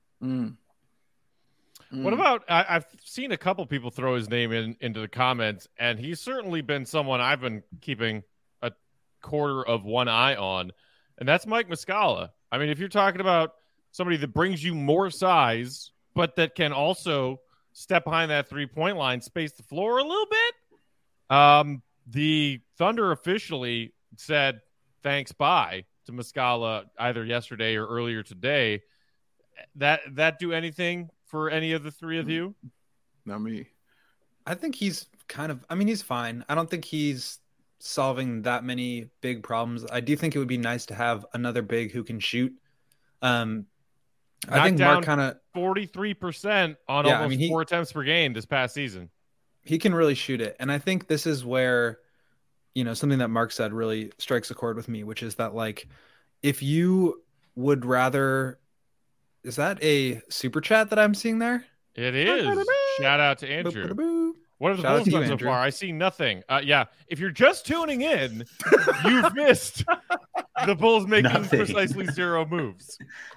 What about, I've seen a couple people throw his name into the comments, and he's certainly been someone I've been keeping a quarter of one eye on, and that's Mike Muscala. I mean, if you're talking about somebody that brings you more size, but that can also step behind that 3-point line, space the floor a little bit, the Thunder officially said thanks, bye to Muscala either yesterday or earlier today. That do anything for any of the three of you? Not me. I think he's he's fine. I don't think he's solving that many big problems. I do think it would be nice to have another big who can shoot. I think Mark kind of 43% on almost 4 attempts per game this past season. He can really shoot it. And I think this is where, something that Mark said really strikes a chord with me, which is that, like, if you would rather, is that a super chat that I'm seeing there? It is. Shout out to Andrew. What have the Bulls done so far? I see nothing. Yeah, if you're just tuning in, you've missed the Bulls making precisely 0 moves.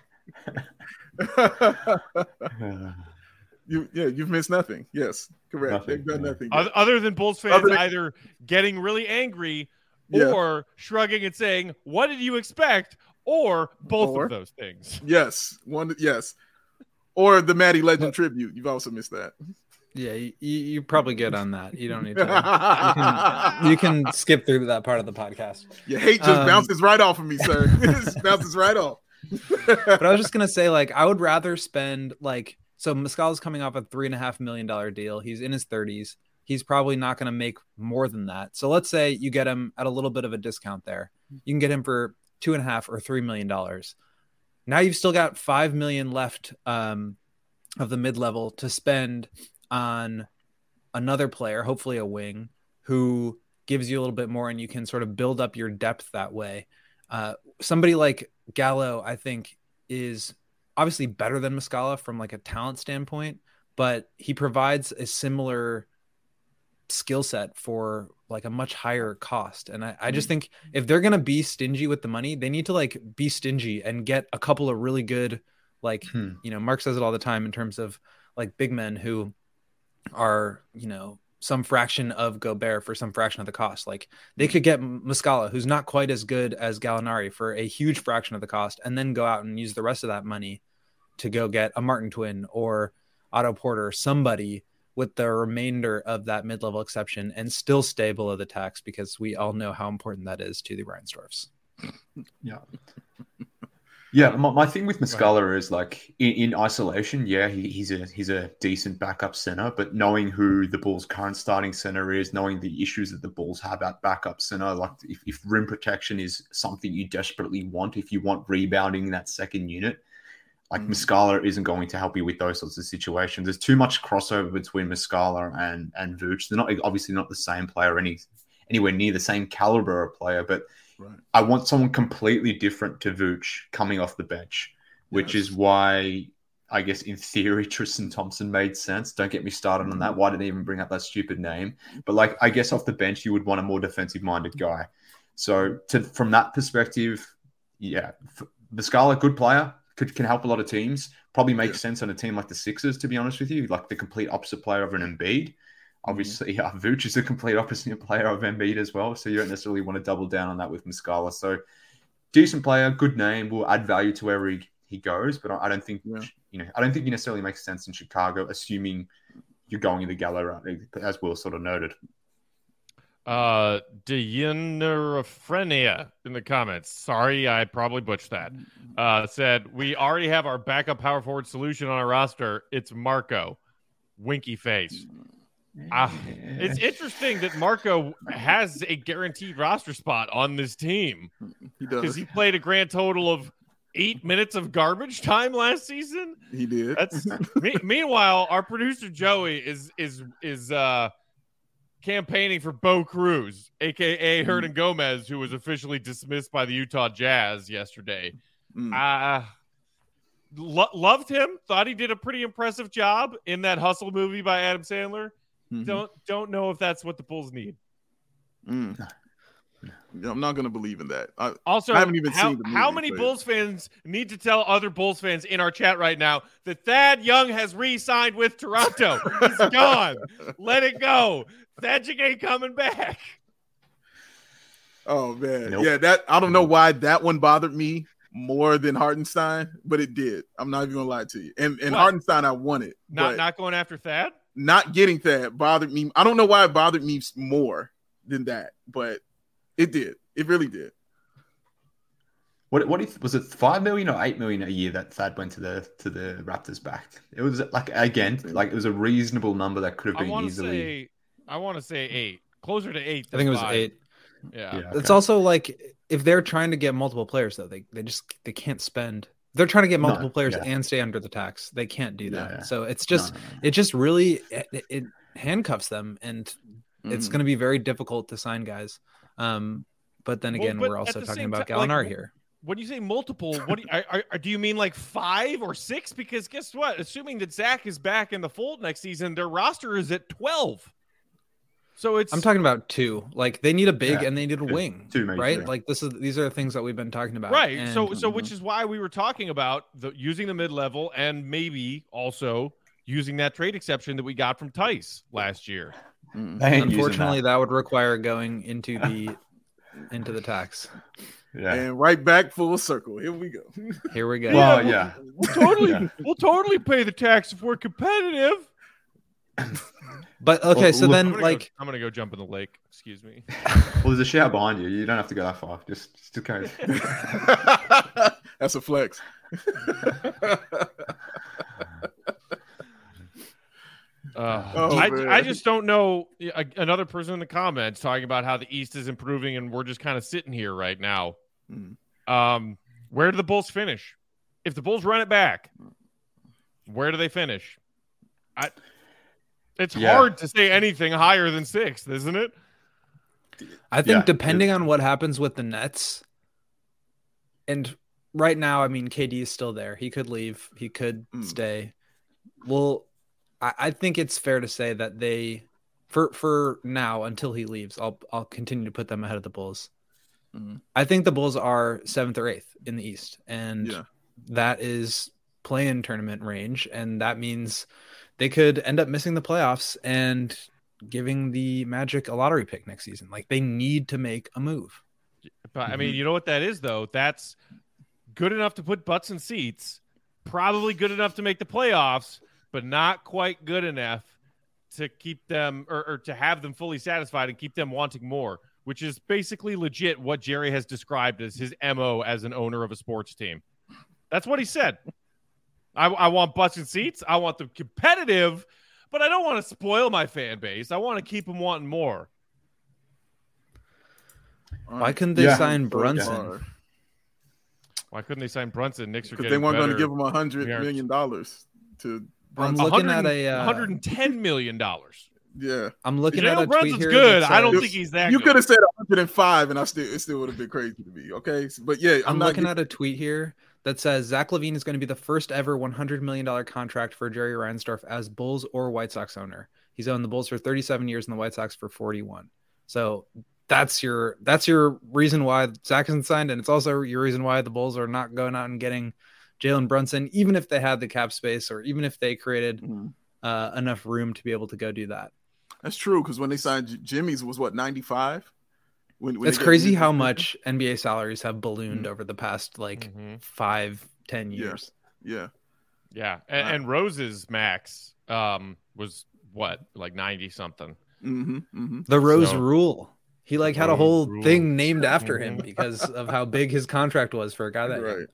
You've missed nothing. Yes, correct. They've done nothing. Other than Bulls fans either getting really angry or shrugging and saying, "What did you expect?" or both of those things. Yes, one. Yes. Or the Matty Legend tribute. You've also missed that. Yeah, you're probably good on that. You don't need to. You can skip through that part of the podcast. Your hate just bounces right off of me, sir. It just bounces right off. But I was just gonna say, like, I would rather spend so Muscala's coming off a $3.5 million deal. He's in his 30s. He's probably not going to make more than that. So let's say you get him at a little bit of a discount there. You can get him for $2.5 or $3 million. Now you've still got $5 million left of the mid-level to spend on another player, hopefully a wing, who gives you a little bit more, and you can sort of build up your depth that way. Somebody like Gallo, I think, is obviously better than Muscala from like a talent standpoint, but he provides a similar skill set for like a much higher cost. And I just think if they're going to be stingy with the money, they need to like be stingy and get a couple of really good, like, Mark says it all the time in terms of like big men who are, some fraction of Gobert for some fraction of the cost. Like they could get Muscala, who's not quite as good as Gallinari, for a huge fraction of the cost, and then go out and use the rest of that money to go get a Martin Twin or Otto Porter, somebody with the remainder of that mid-level exception, and still stay below the tax, because we all know how important that is to the Reinsdorfs. Yeah. Yeah, my thing with Muscala is like in isolation, yeah, he's a decent backup center, but knowing who the Bulls' current starting center is, knowing the issues that the Bulls have at backup center, like if rim protection is something you desperately want, if you want rebounding in that second unit, like Muscala isn't going to help you with those sorts of situations. There's too much crossover between Muscala and Vooch. They're obviously not the same player, anywhere near the same caliber of player, but right. I want someone completely different to Vooch coming off the bench, which is why I guess in theory Tristan Thompson made sense. Don't get me started on that. Why did they even bring up that stupid name? But like, I guess off the bench you would want a more defensive-minded guy. So from that perspective, yeah, Muscala, good player. Can help a lot of teams. Probably makes sense on a team like the Sixers, to be honest with you, like the complete opposite player of an Embiid. Obviously, Vooch is a complete opposite player of Embiid as well, so you don't necessarily want to double down on that with Muscala. So, decent player, good name, will add value to wherever he goes. But I don't think I don't think he necessarily makes sense in Chicago, assuming you're going in the Gallo route, as Will sort of noted. Deyeneraphrenia in the comments. Sorry, I probably butchered that. Said, we already have our backup power forward solution on our roster. It's Marco. Winky face. It's interesting that Marco has a guaranteed roster spot on this team. He does. Because he played a grand total of 8 minutes of garbage time last season. He did. That's meanwhile, our producer Joey is campaigning for Bo Cruz, a.k.a. Hernan Gomez, who was officially dismissed by the Utah Jazz yesterday. Loved him. Thought he did a pretty impressive job in that Hustle movie by Adam Sandler. Don't know if that's what the Bulls need. I'm not going to believe in that. I haven't even seen the movie. How many Bulls fans need to tell other Bulls fans in our chat right now that Thad Young has re-signed with Toronto? He's gone. Let it go. Thadjic ain't coming back. Oh man, yeah. I don't know why that one bothered me more than Hartenstein, but it did. I'm not even gonna lie to you. And Hartenstein, I wanted. Not going after Thad. Not getting Thad bothered me. I don't know why it bothered me more than that, but it did. It really did. What was it? $5 million or $8 million a year that Thad went to the Raptors back? It was like, again, like it was a reasonable number that could have been easily. I want to say 8, closer to 8. I think it was 8. Yeah. Okay. It's also like if they're trying to get multiple players, though, they can't spend. They're trying to get multiple players and stay under the tax. They can't do that. Yeah. So it's just it just really it handcuffs them, and it's going to be very difficult to sign guys. But then again, we're also talking about Gallinari here. When you say multiple, what do you mean, like 5 or 6? Because guess what? Assuming that Zach is back in the fold next season, their roster is at 12. So I'm talking about 2. Like they need a big and they need a wing, 2 major, right? Like these are the things that we've been talking about, right? And, so which is why we were talking about using the mid-level and maybe also using that trade exception that we got from Tice last year. Unfortunately, that would require going into the into the tax. Yeah. And right back full circle. Here we go. Here we go. Well, yeah. We'll totally pay the tax if we're competitive. But okay, Well, so look, then I'm gonna go jump in the lake. Excuse me. Well, there's a shower behind you. You don't have to go that far. Just okay. That's a flex. I just don't know. Another person in the comments talking about how the East is improving, and we're just kind of sitting here right now. Where do the Bulls finish? If the Bulls run it back, where do they finish? It's hard to say anything higher than 6th, isn't it? I think depending on what happens with the Nets, and right now, I mean, KD is still there. He could leave. He could stay. Well, I think it's fair to say that they, for now, until he leaves, I'll continue to put them ahead of the Bulls. I think the Bulls are 7th or 8th in the East, and that is play-in tournament range, and that means they could end up missing the playoffs and giving the Magic a lottery pick next season. Like, they need to make a move. But I mean, you know what that is, though? That's good enough to put butts in seats, probably good enough to make the playoffs, but not quite good enough to keep them or to have them fully satisfied and keep them wanting more, which is basically legit what Jerry has described as his MO as an owner of a sports team. That's what he said. I want butts in seats. I want them competitive, but I don't want to spoil my fan base. I want to keep them wanting more. Why couldn't they sign Brunson? Why couldn't they sign Brunson? Knicks are getting they weren't better. going to give him $100 million to I'm Brunson. looking at a $110 million. Yeah, I'm looking at a tweet Brunson's here. good. That I don't says- think he's that you good. could have said 105, and it still would have been crazy to me. Okay, but yeah, I'm looking at a tweet here that says Zach LaVine is going to be the first ever $100 million contract for Jerry Reinsdorf as Bulls or White Sox owner. He's owned the Bulls for 37 years and the White Sox for 41. So that's your reason why Zach isn't signed, and it's also your reason why the Bulls are not going out and getting Jalen Brunson, even if they had the cap space or even if they created enough room to be able to go do that. That's true, because when they signed Jimmy's was what, 95? It's crazy how much NBA salaries have ballooned over the past 5-10 years. Yeah. And Rose's max was what, like 90 something. The Rose rule. He had a whole thing named after him because of how big his contract was for a guy that right.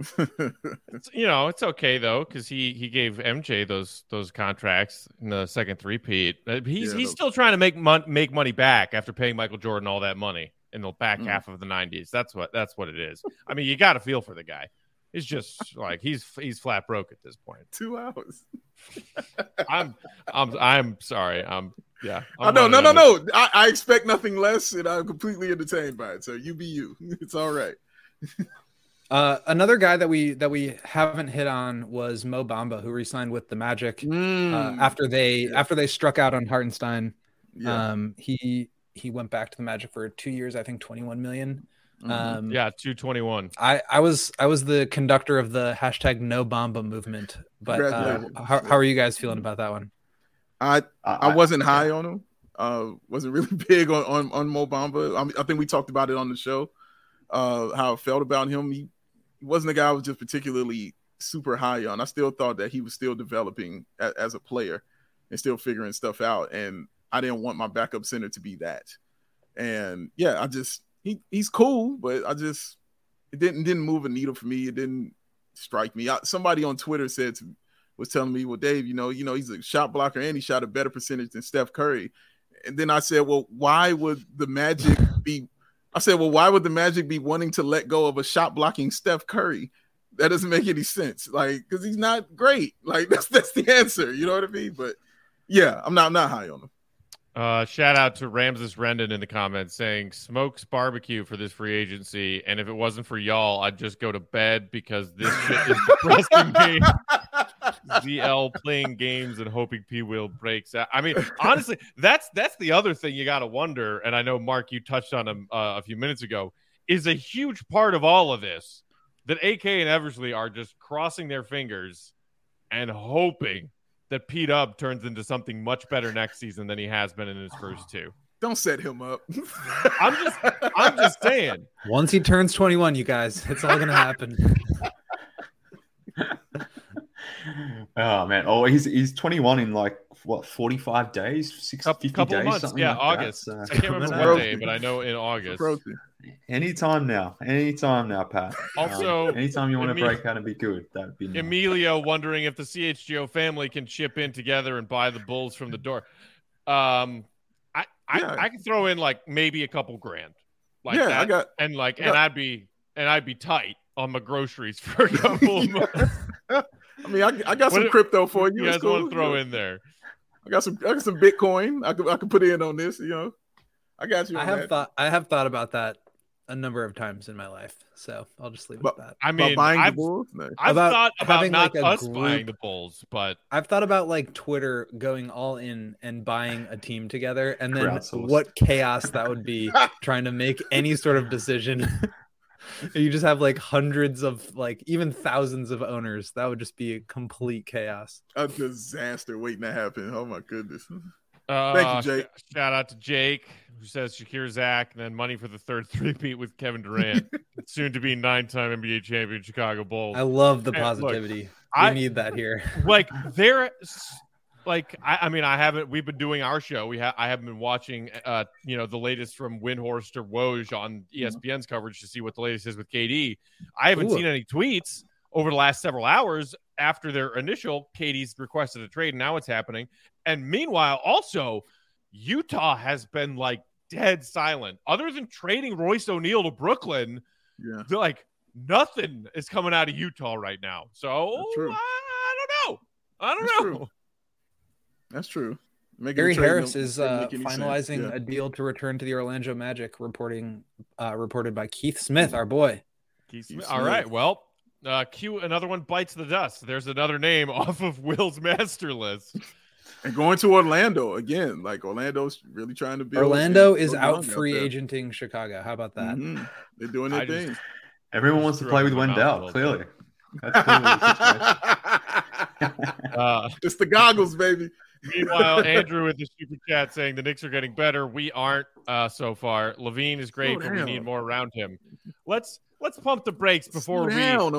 It's okay though, because he gave MJ those contracts in the second three-peat. He's still trying to make money back after paying Michael Jordan all that money in the back half of the 90s. That's what it is. I mean, you got to feel for the guy. It's just like he's flat broke at this point. 2 hours. I'm sorry. No. I expect nothing less, and I'm completely entertained by it. So you be you. It's all right. Another guy that we haven't hit on was Mo Bamba, who re-signed with the Magic after they struck out on Hartenstein. Yeah. He went back to the Magic for 2 years, I think $21 million. 221. I was the conductor of the hashtag No Bamba movement, but how are you guys feeling about that one? I wasn't high on him. Wasn't really big on Mo Bamba. I think we talked about it on the show. How I felt about him. He wasn't a guy I was just particularly super high on. I still thought that he was still developing as a player and still figuring stuff out. And I didn't want my backup center to be that. And yeah, he's cool, but it didn't move a needle for me. It didn't strike me. Somebody on Twitter was telling me, well, Dave, he's a shot blocker and he shot a better percentage than Steph Curry. And then I said, well, why would the Magic be wanting to let go of a shot blocking Steph Curry? That doesn't make any sense. Because he's not great. That's the answer. You know what I mean? But yeah, I'm not high on him. Shout out to Ramses Rendon in the comments saying Smokes barbecue for this free agency, and if it wasn't for y'all, I'd just go to bed because this shit is depressing me. ZL playing games and hoping P Will breaks out. I mean, honestly, that's the other thing you got to wonder, and I know Mark, you touched on him a few minutes ago, is a huge part of all of this that AK and Eversley are just crossing their fingers and hoping that P-Dub turns into something much better next season than he has been in his first two. Don't set him up. I'm just saying. Once he turns 21, you guys, it's all gonna happen. Oh man! Oh, he's 21 in like what 45 days, 50 Couple days, of months. something Yeah, like August. That. I can't remember what day, but I know in August. Approaching. Anytime now, Pat. Also, anytime you want to break out and be good, that'd be nice. Emilio wondering if the CHGO family can chip in together and buy the Bulls from the door. I can throw in like maybe a couple grand. Like that. I'd be tight on my groceries for a couple of months. I mean, I got some crypto for you. You guys want to throw in there? I got some Bitcoin. I could put in on this. I got you. I have thought about that a number of times in my life, so I'll just leave it at that. I mean, I've thought about not us buying the Bulls, but I've thought about like Twitter going all in and buying a team together, and then what chaos that would be trying to make any sort of decision. You just have like hundreds of, like even thousands of owners. That would just be a complete chaos. A disaster waiting to happen. Oh my goodness. Thank you, Jake. Shout out to Jake, who says Shakir Zach, and then money for the third three-peat with Kevin Durant. Soon to be 9-time NBA champion Chicago Bulls. I love the positivity. We need that here. Like we've been doing our show. I haven't been watching, the latest from Windhorst or Woj on ESPN's coverage to see what the latest is with KD. I haven't seen any tweets over the last several hours after their initial KD's requested a trade. And now it's happening. And meanwhile, also Utah has been like dead silent other than trading Royce O'Neal to Brooklyn. Yeah. They're like nothing is coming out of Utah right now. So I don't know. That's true. Gary Harris is finalizing a deal to return to the Orlando Magic, reported by Keith Smith, our boy. Keith Smith. All right. Well, another one bites the dust. There's another name off of Will's master list. And going to Orlando again. Like Orlando's really trying to build. Orlando is out free agenting Chicago. How about that? Mm-hmm. They're doing their thing. Everyone wants to play with Wendell, clearly. That's clearly it's the goggles, baby. Meanwhile, Andrew with the super chat saying the Knicks are getting better. We aren't so far. Levine is great, but we need more around him. Let's pump the brakes before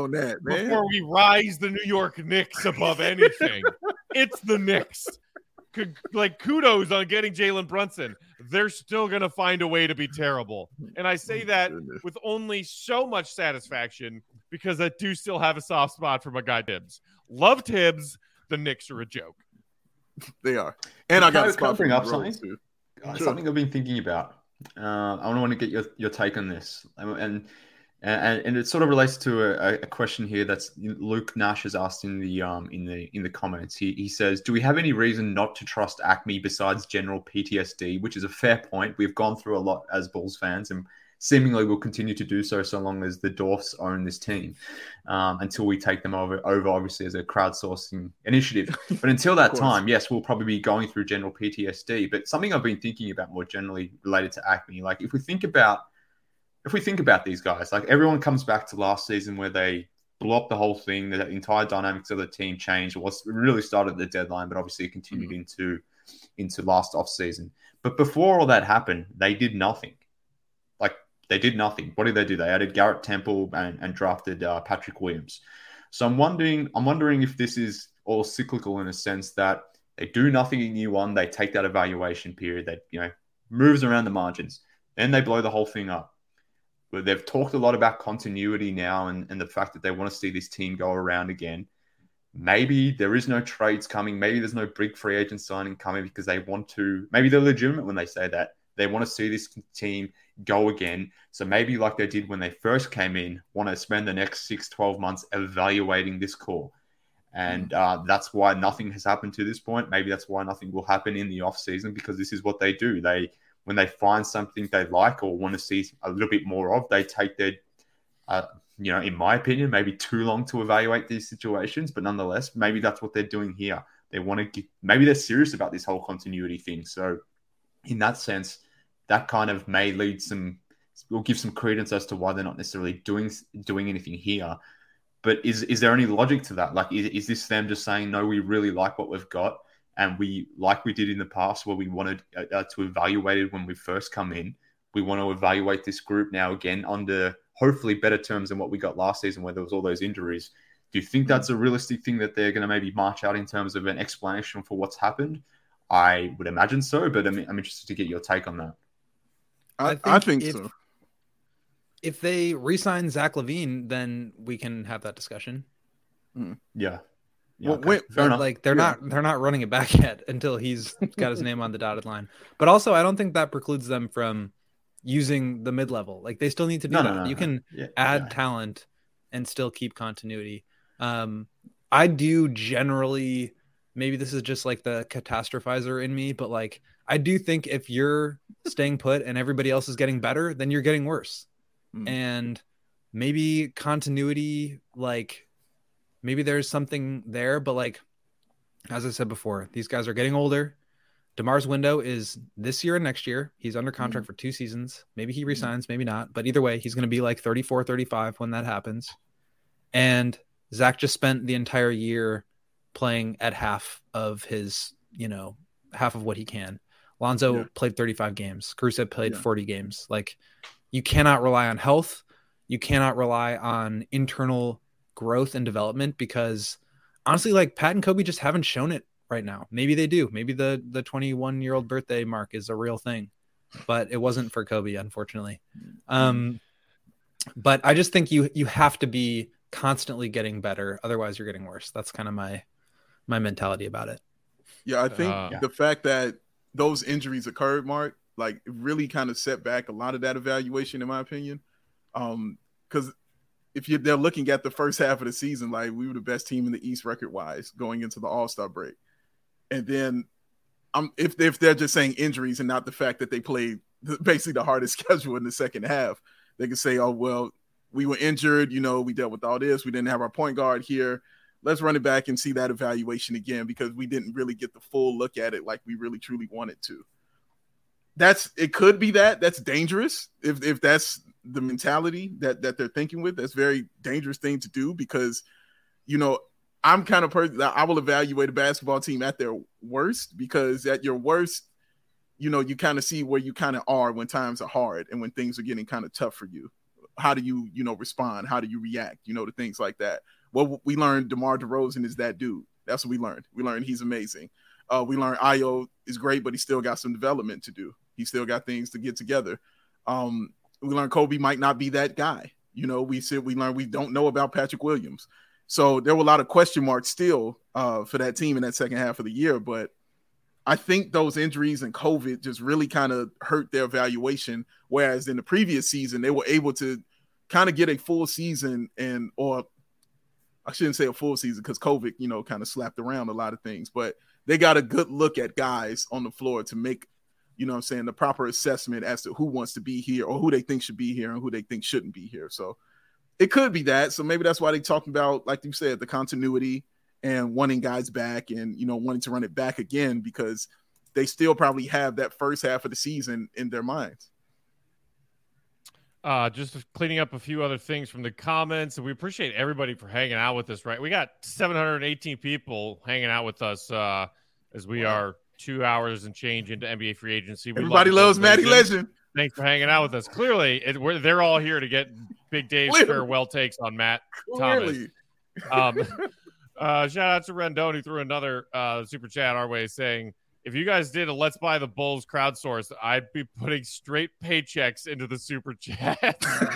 we rise the New York Knicks above anything. It's the Knicks. Like kudos on getting Jalen Brunson. They're still gonna find a way to be terrible, and I say that with only so much satisfaction because I do still have a soft spot for my guy Tibbs. Love Tibbs. The Knicks are a joke. They are. And I got to bring up something. Something I've been thinking about. I want to get your take on this, and it sort of relates to a question here that's Luke Nash has asked in the comments. He says, "Do we have any reason not to trust Acme besides general PTSD?" Which is a fair point. We've gone through a lot as Bulls fans, and seemingly will continue to do so long as the Dwarfs own this team, until we take them over obviously as a crowdsourcing initiative. But until that time, yes, we'll probably be going through general PTSD. But something I've been thinking about more generally related to Acme, like if we think about these guys, like everyone comes back to last season where they blew up the whole thing, the entire dynamics of the team changed. It really started at the deadline, but obviously it continued into last off season. But before all that happened, they did nothing. They did nothing. What did they do? They added Garrett Temple and drafted Patrick Williams. So I'm wondering if this is all cyclical in a sense that they do nothing in year one. They take that evaluation period that moves around the margins. Then they blow the whole thing up. But they've talked a lot about continuity now and the fact that they want to see this team go around again. Maybe there is no trades coming. Maybe there's no big free agent signing coming because they want to. Maybe they're legitimate when they say that. They want to see this team go again. So maybe like they did when they first came in, want to spend the next 6-12 months evaluating this core. And that's why nothing has happened to this point. Maybe that's why nothing will happen in the off season, because this is what they do. When they find something they like or want to see a little bit more of, they take their, in my opinion, maybe too long to evaluate these situations. But nonetheless, maybe that's what they're doing here. They want to maybe they're serious about this whole continuity thing. So in that sense, that kind of may will give some credence as to why they're not necessarily doing anything here. But is there any logic to that? Like, is this them just saying, no, we really like what we've got And we, like we did in the past, where we wanted to evaluate it when we first come in, we want to evaluate this group now again under hopefully better terms than what we got last season, where there was all those injuries. Do you think that's a realistic thing that they're going to maybe march out in terms of an explanation for what's happened? I would imagine so, but I'm interested to get your take on that. I think so. If they re-sign Zach LaVine, then we can have that discussion. Yeah. Well, Okay. Fair enough. Like they're not running it back yet until he's got his name on the dotted line. But also, I don't think that precludes them from using the mid-level. Like they still need to do that. No. You can add talent and still keep continuity. I do generally, maybe this is just like the catastrophizer in me, but like I do think if you're staying put and everybody else is getting better, then you're getting worse. And maybe continuity, like maybe there's something there, but like as I said before, these guys are getting older. DeMar's window is this year and next year. He's under contract for 2 seasons. Maybe he resigns, maybe not. But either way, he's going to be like 34, 35 when that happens. And Zach just spent the entire year playing at half of his, half of what he can. Lonzo played 35 games. Caruso played 40 games. Like you cannot rely on health. You cannot rely on internal growth and development because honestly, like Pat and Kobe just haven't shown it right now. Maybe they do. Maybe the 21-year-old birthday mark is a real thing, but it wasn't for Kobe, unfortunately. But I just think you have to be constantly getting better. Otherwise you're getting worse. That's kind of my mentality about it. Yeah. I think the fact that those injuries occurred, Mark, like it really kind of set back a lot of that evaluation, in my opinion. Because if they're looking at the first half of the season, like we were the best team in the East record-wise going into the All-Star break. And then if they're just saying injuries and not the fact that they played basically the hardest schedule in the second half, they can say, oh, well, we were injured, we dealt with all this. We didn't have our point guard here. Let's run it back and see that evaluation again because we didn't really get the full look at it like we really truly wanted to. It could be that's dangerous if that's the mentality that they're thinking with. That's a very dangerous thing to do because, I'm kind of person that I will evaluate a basketball team at their worst because at your worst, you kind of see where you kind of are when times are hard and when things are getting kind of tough for you. How do you, respond? How do you react, to things like that? Well, we learned DeMar DeRozan is that dude. That's what we learned. We learned he's amazing. We learned Ayo is great, but he still got some development to do. He still got things to get together. We learned Kobe might not be that guy. We learned we don't know about Patrick Williams. So there were a lot of question marks still for that team in that second half of the year. But I think those injuries and COVID just really kind of hurt their evaluation. Whereas in the previous season, they were able to kind of get a full season or I shouldn't say a full season because COVID, kind of slapped around a lot of things. But they got a good look at guys on the floor to make, the proper assessment as to who wants to be here or who they think should be here and who they think shouldn't be here. So it could be that. So maybe that's why they talking about, like you said, the continuity and wanting guys back and, wanting to run it back again because they still probably have that first half of the season in their minds. Just cleaning up a few other things from the comments. And we appreciate everybody for hanging out with us, right? We got 718 people hanging out with us as we are 2 hours and change into NBA free agency. Everybody loves Matty Legend. Thanks for hanging out with us. Clearly, they're all here to get Big Dave's farewell takes on Matt Thomas. Shout out to Rendon who threw another super chat our way saying, if you guys did a Let's Buy the Bulls crowdsource, I'd be putting straight paychecks into the super chat.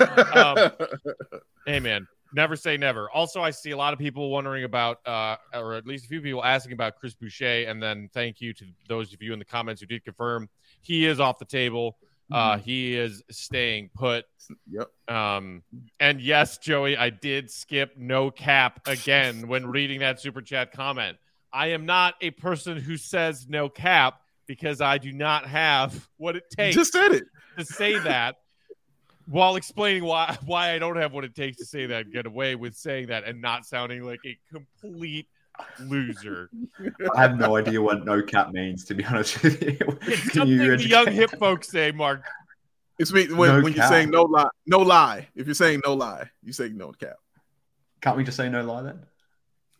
Hey, man, never say never. Also, I see a lot of people wondering about, or at least a few people asking about Chris Boucher. And then thank you to those of you in the comments who did confirm he is off the table. He is staying put. Yep. And yes, Joey, I did skip no cap again when reading that super chat comment. I am not a person who says no cap because I do not have what it takes just said it. to say that while explaining why I don't have what it takes to say that, get away with saying that and not sounding like a complete loser. I have no idea what no cap means, to be honest with you. It's something the young hip folks say, Mark. It's me when you're saying no lie. No lie. If you're saying no lie, you say no cap. Can't we just say no lie then?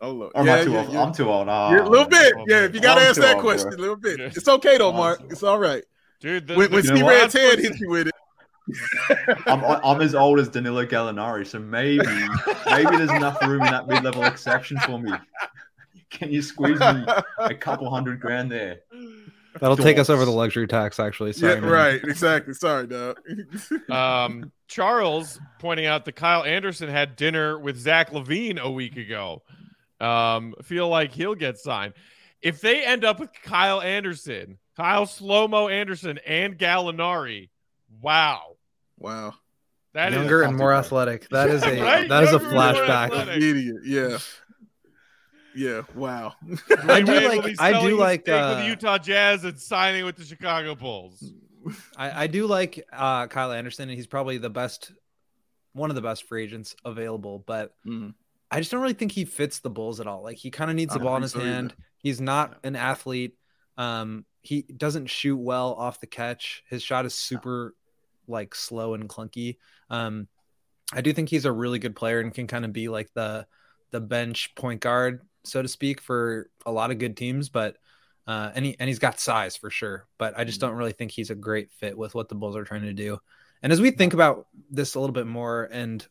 Oh, Lord. Or am I too old? I'm too old. A little bit. Yeah, if you got to I'm ask too that old, question, bro. a little bit. It's okay, though, Mark. It's all right. Dude, When Steve Red's head hits you with it. I'm as old as Danilo Gallinari, so maybe there's enough room in that mid-level exception for me. Can you squeeze me a couple $100,000 there? That'll take us over the luxury tax, actually. Sorry, man. Right. Exactly. Sorry, dog. Charles pointing out that Kyle Anderson had dinner with Zach LaVine a week ago. Feel like he'll get signed. If they end up with Kyle Slow-Mo Anderson, and Gallinari, wow. That younger is and more athletic. That is a right? that is a Younger and more flashback. athletic. Idiot. Yeah. Wow. I do like with the Utah Jazz and signing with the Chicago Bulls. I do like Kyle Anderson, and he's probably one of the best free agents available. But I just don't really think he fits the Bulls at all. Like, he kind of needs the ball in his hand. Either. He's not an athlete. He doesn't shoot well off the catch. His shot is super slow and clunky. I do think he's a really good player and can kind of be like the bench point guard, so to speak, for a lot of good teams. But and he's got size for sure. But I just don't really think he's a great fit with what the Bulls are trying to do. And as we think about this a little bit more, and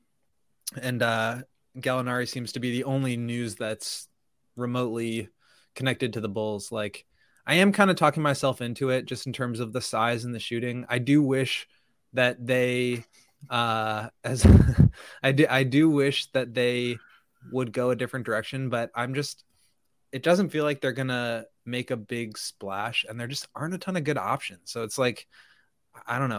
Gallinari seems to be the only news that's remotely connected to the Bulls. Like, I am kind of talking myself into it just in terms of the size and the shooting. I do wish that they I do wish that they would go a different direction, but it doesn't feel like they're gonna make a big splash, and there just aren't a ton of good options. So it's like, I don't know.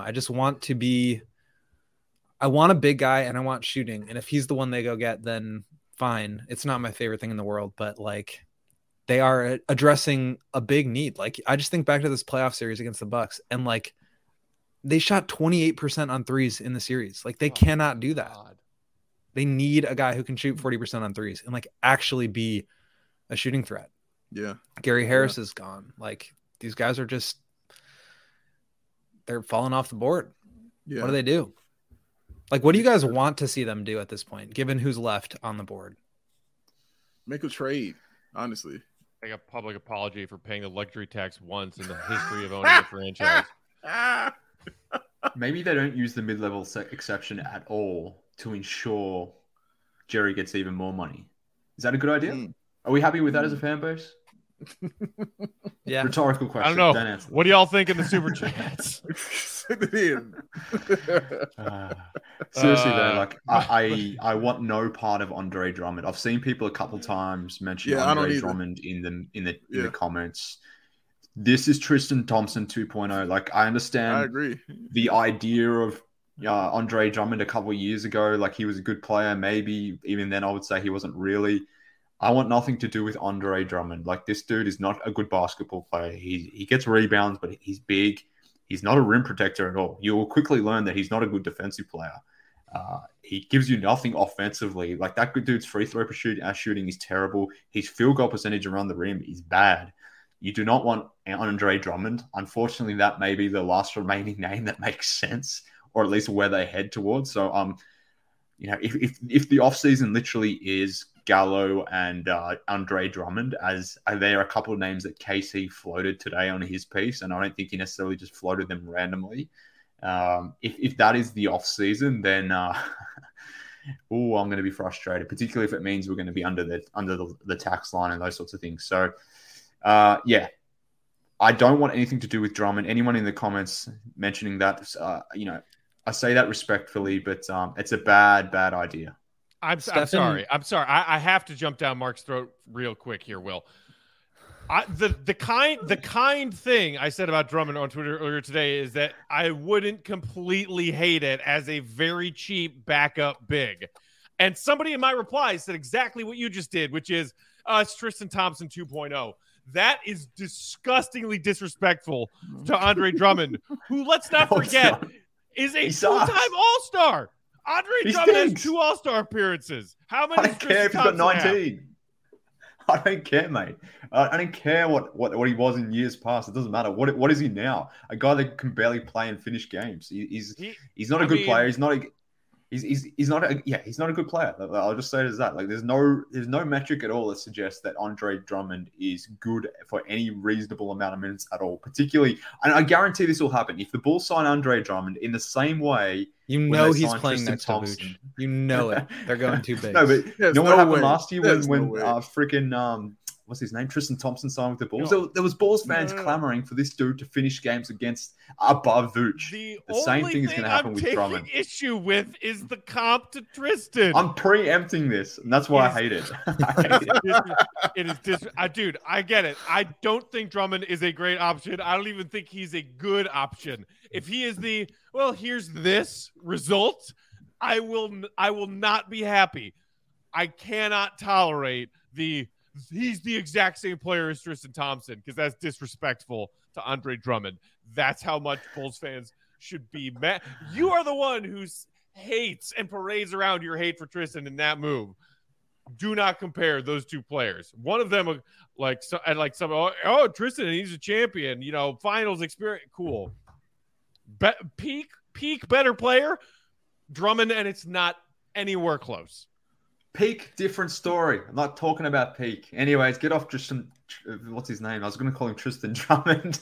I want a big guy and I want shooting. And if he's the one they go get, then fine. It's not my favorite thing in the world, but they are addressing a big need. Like, I just think back to this playoff series against the Bucks, and they shot 28% on threes in the series. Like, they cannot do that. God. They need a guy who can shoot 40% on threes and actually be a shooting threat. Yeah. Gary Harris is gone. These guys are they're falling off the board. Yeah. What do they do? What do you guys want to see them do at this point, given who's left on the board? Make a trade, honestly. Make a public apology for paying the luxury tax once in the history of owning a franchise. Maybe they don't use the mid-level exception at all to ensure Jerry gets even more money. Is that a good idea? Are we happy with that as a fan base? Yeah. Rhetorical question. I don't know. What do y'all think in the super chats? Send it in. Seriously though, I want no part of Andre Drummond. I've seen people a couple times mention Andre Drummond in the comments. This is Tristan Thompson 2.0. I understand. I agree. The idea of Andre Drummond a couple of years ago, he was a good player. Maybe even then I would say he wasn't really. I want nothing to do with Andre Drummond. This dude is not a good basketball player. He gets rebounds, but he's big. He's not a rim protector at all. You will quickly learn that he's not a good defensive player. He gives you nothing offensively. That good dude's free throw shooting is terrible. His field goal percentage around the rim is bad. You do not want Andre Drummond. Unfortunately, that may be the last remaining name that makes sense, or at least where they head towards. So, if the offseason literally is Gallo and Andre Drummond, as there are a couple of names that KC floated today on his piece, and I don't think he necessarily just floated them randomly. If that is the offseason, then I'm going to be frustrated, particularly if it means we're going to be under the tax line and those sorts of things. So, yeah, I don't want anything to do with Drummond. Anyone in the comments mentioning that, I say that respectfully, but it's a bad idea. I'm sorry. I have to jump down Mark's throat real quick here, Will. The kind thing I said about Drummond on Twitter earlier today is that I wouldn't completely hate it as a very cheap backup big. And somebody in my reply said exactly what you just did, which is it's Tristan Thompson 2.0. That is disgustingly disrespectful to Andre Drummond, who, let's not forget, is a two-time All-Star. Andre Drummond has 2 All-Star appearances. How many? I don't care if he's got 19. I don't care, mate. I don't care what he was in years past. It doesn't matter. What is he now? A guy that can barely play and finish games. He's not a good player. He's not a. he's not a good player. I'll just say it as that. Like there's no metric at all that suggests that Andre Drummond is good for any reasonable amount of minutes at all. Particularly, and I guarantee this will happen if the Bulls sign Andre Drummond in the same way. You know he's playing next to Vooch. You know it. They're going too big. No, but you know what happened last year when freaking what's his name? Tristan Thompson signed with the Bulls. There was Bulls fans clamoring for this dude to finish games above Vooch. The same thing is going to happen with Drummond. The issue with is the comp to Tristan. I'm preempting this, and that's why I hate it. Dude, I get it. I don't think Drummond is a great option. I don't even think he's a good option. If he is here's this result, I will not be happy. I cannot tolerate he's the exact same player as Tristan Thompson because that's disrespectful to Andre Drummond. That's how much Bulls fans should be mad. You are the one who hates and parades around your hate for Tristan in that move. Do not compare those two players. One of them, Tristan, he's a champion. Finals experience, cool. Peak better player, Drummond, and it's not anywhere close. Peak, different story. I'm not talking about peak. Anyways, get off Tristan. What's his name? I was going to call him Tristan Drummond.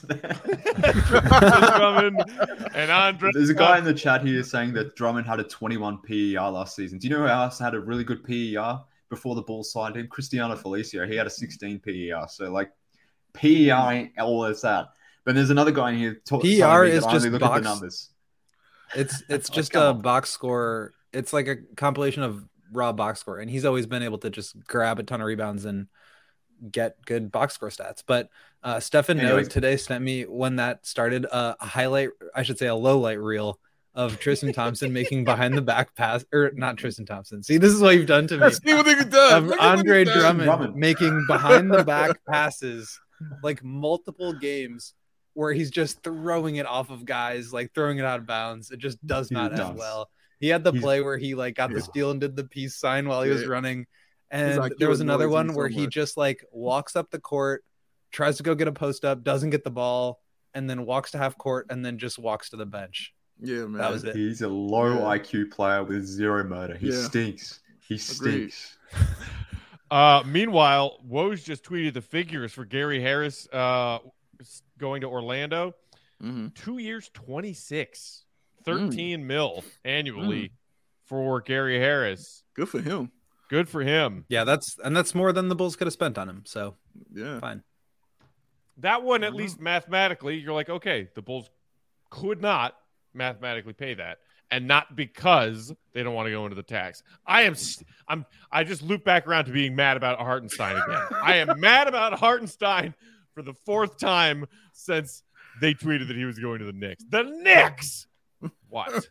Drummond and Andre. There's a guy in the chat here saying that Drummond had a 21 PER last season. Do you know who else had a really good PER before the Bulls signed him? Cristiano Felicio. He had a 16 PER. So, PER ain't all that's that. But there's another guy in here. PER is just look at the numbers. It's just a box score. It's like a compilation of raw box score, and he's always been able to just grab a ton of rebounds and get good box score stats. But Stefan Note today sent me, when that started, a low light reel of Tristan Thompson making behind the back pass, or not Tristan Thompson. See, this is what you've done to me. See what they've done. Of Andre Drummond making behind the back passes, multiple games where he's just throwing it off of guys, throwing it out of bounds. It just does not end well. He had the play where he got the steal and did the peace sign while he was running. And there was another one where he just walks up the court, tries to go get a post up, doesn't get the ball, and then walks to half court and then just walks to the bench. Yeah, man. That was it. He's a low IQ player with zero motor. He stinks. He stinks. Meanwhile, Woj just tweeted the figures for Gary Harris going to Orlando. 2 years, 26. 13 mil annually for Gary Harris. Good for him. Good for him. Yeah, that's more than the Bulls could have spent on him. So yeah, fine. That one, at least mathematically, you're like, okay, the Bulls could not mathematically pay that, and not because they don't want to go into the tax. I just loop back around to being mad about Hartenstein again. I am mad about Hartenstein for the fourth time since they tweeted that he was going to the Knicks. The Knicks. What?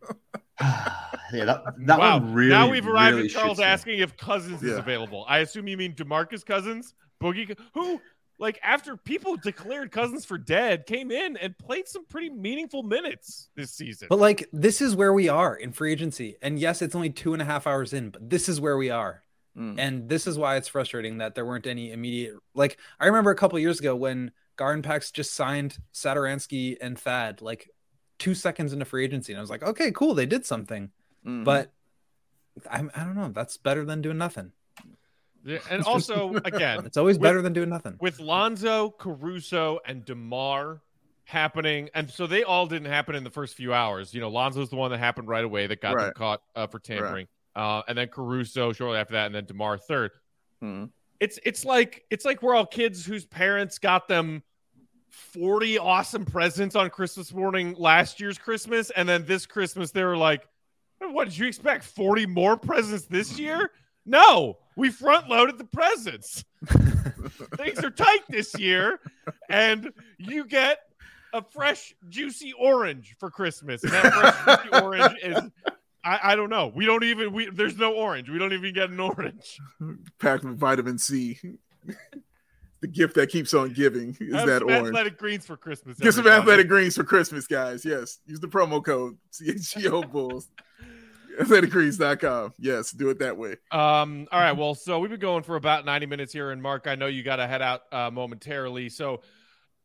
That one really. Now we've arrived really at Charles asking if Cousins is available. I assume you mean DeMarcus Cousins, Boogie, who, after people declared Cousins for dead, came in and played some pretty meaningful minutes this season. But this is where we are in free agency, and yes, it's only 2.5 hours in, but this is where we are, and this is why it's frustrating that there weren't any immediate. I remember a couple of years ago when Gardenpax just signed Satoransky and Thad 2 seconds into free agency, and I was like, okay, cool, they did something. But I don't know, that's better than doing nothing. Yeah, and also, again, it's always better than doing nothing. With Lonzo, Caruso, and DeMar happening, and so they all didn't happen in the first few hours. Lonzo's the one that happened right away that got them caught for tampering, and then Caruso shortly after that, and then DeMar third. It's like we're all kids whose parents got them 40 awesome presents on Christmas morning last year's Christmas, and then this Christmas they were like, what did you expect, 40 more presents this year? No, we front loaded the presents. Things are tight this year, and you get a fresh juicy orange for Christmas, and that fresh juicy orange is I don't know, there's no orange, we don't even get an orange packed with vitamin C. The gift that keeps on giving is that orange. Athletic greens for Christmas. Get some athletic greens for Christmas, guys. Yes. Use the promo code CHGO Bulls. Athleticgreens.com. Yes, do it that way. All right. Well, so we've been going for about 90 minutes here, and Mark, I know you got to head out momentarily. So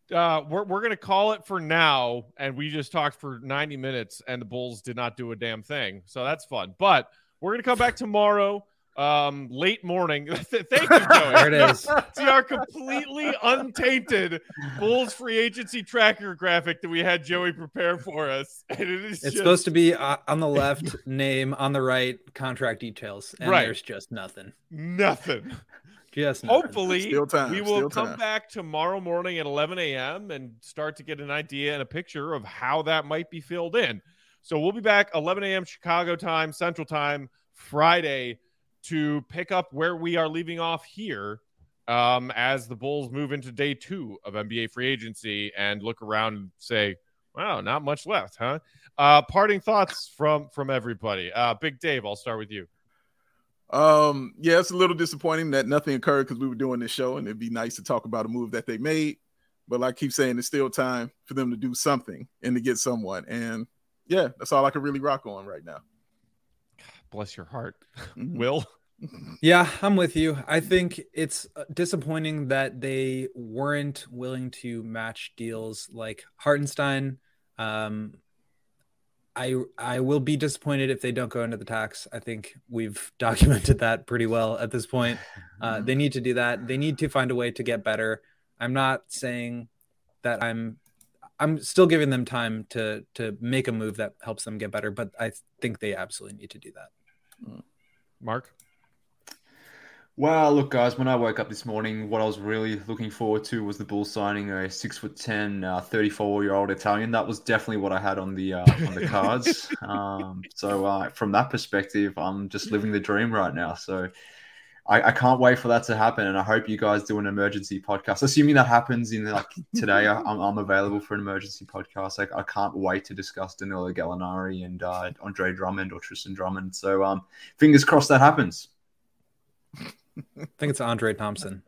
we're gonna call it for now, and we just talked for 90 minutes, and the Bulls did not do a damn thing, so that's fun. But we're gonna come back tomorrow, late morning. Thank you, Joey. There it is. See our completely untainted Bulls free agency tracker graphic that we had Joey prepare for us, and it's supposed to be on the left, name, on the right, contract details, and Right. there's just nothing. nothing. Just nothing. Hopefully, Still time, we will still come time. back tomorrow morning at 11 a.m. and start to get an idea and a picture of how that might be filled in. So we'll be back 11 a.m. Chicago time, Central time, Friday, to pick up where we are leaving off here as the Bulls move into day 2 of NBA free agency and look around and say, wow, not much left, huh? Parting thoughts from everybody. Big Dave, I'll start with you. Yeah, it's a little disappointing that nothing occurred because we were doing this show, and it'd be nice to talk about a move that they made. But like I keep saying, it's still time for them to do something and to get someone. And yeah, that's all I can really rock on right now. Bless your heart. Mhm. Will? Yeah, I'm with you. I think it's disappointing that they weren't willing to match deals like Hartenstein. I will be disappointed if they don't go into the tax. I think we've documented that pretty well at this point. They need to do that. They need to find a way to get better. I'm not saying that I'm still giving them time to make a move that helps them get better, but I think they absolutely need to do that. Mark? Well, look, guys, when I woke up this morning, what I was really looking forward to was the Bulls signing a 6'10", 34-year-old Italian. That was definitely what I had on the cards. So from that perspective, I'm just living the dream right now. So I can't wait for that to happen, and I hope you guys do an emergency podcast. Assuming that happens in today, I'm available for an emergency podcast. I can't wait to discuss Danilo Gallinari and Andre Drummond or Tristan Drummond. So fingers crossed that happens. I think it's Andre Thompson.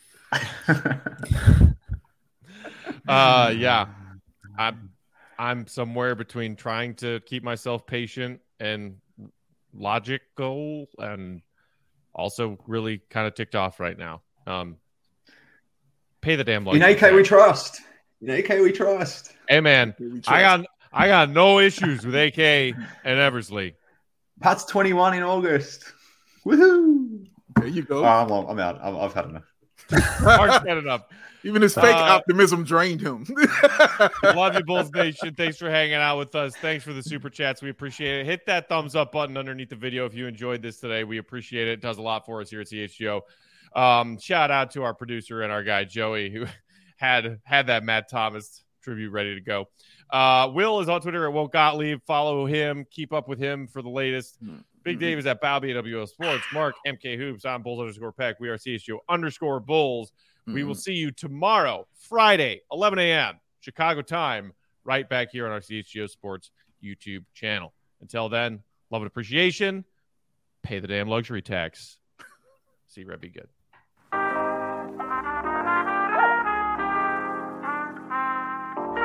Yeah. I'm somewhere between trying to keep myself patient and logical and also really kind of ticked off right now. Pay the damn In luxury AK tax. we trust. In AK we trust. Hey man, I got no issues with AK and Eversley. Pat's 21 in August. Woohoo! There you go. I'm out. I've had enough. Mark's had enough. Even his fake optimism drained him. Love you, Bulls Nation. Thanks for hanging out with us. Thanks for the super chats. We appreciate it. Hit that thumbs up button underneath the video if you enjoyed this today. We appreciate it. It does a lot for us here at CHGO. Shout out to our producer and our guy, Joey, who had that Matt Thomas tribute ready to go. Will is on Twitter at Will Gottlieb. Follow him. Keep up with him for the latest. Big Dave is at Balby at WO Sports. Mark, MK Hoops. I'm Bulls_Peck. We are CHGO_Bulls. We will see you tomorrow, Friday, 11 a.m. Chicago time, right back here on our CHGO Sports YouTube channel. Until then, love and appreciation. Pay the damn luxury tax. See you, Red. Be good.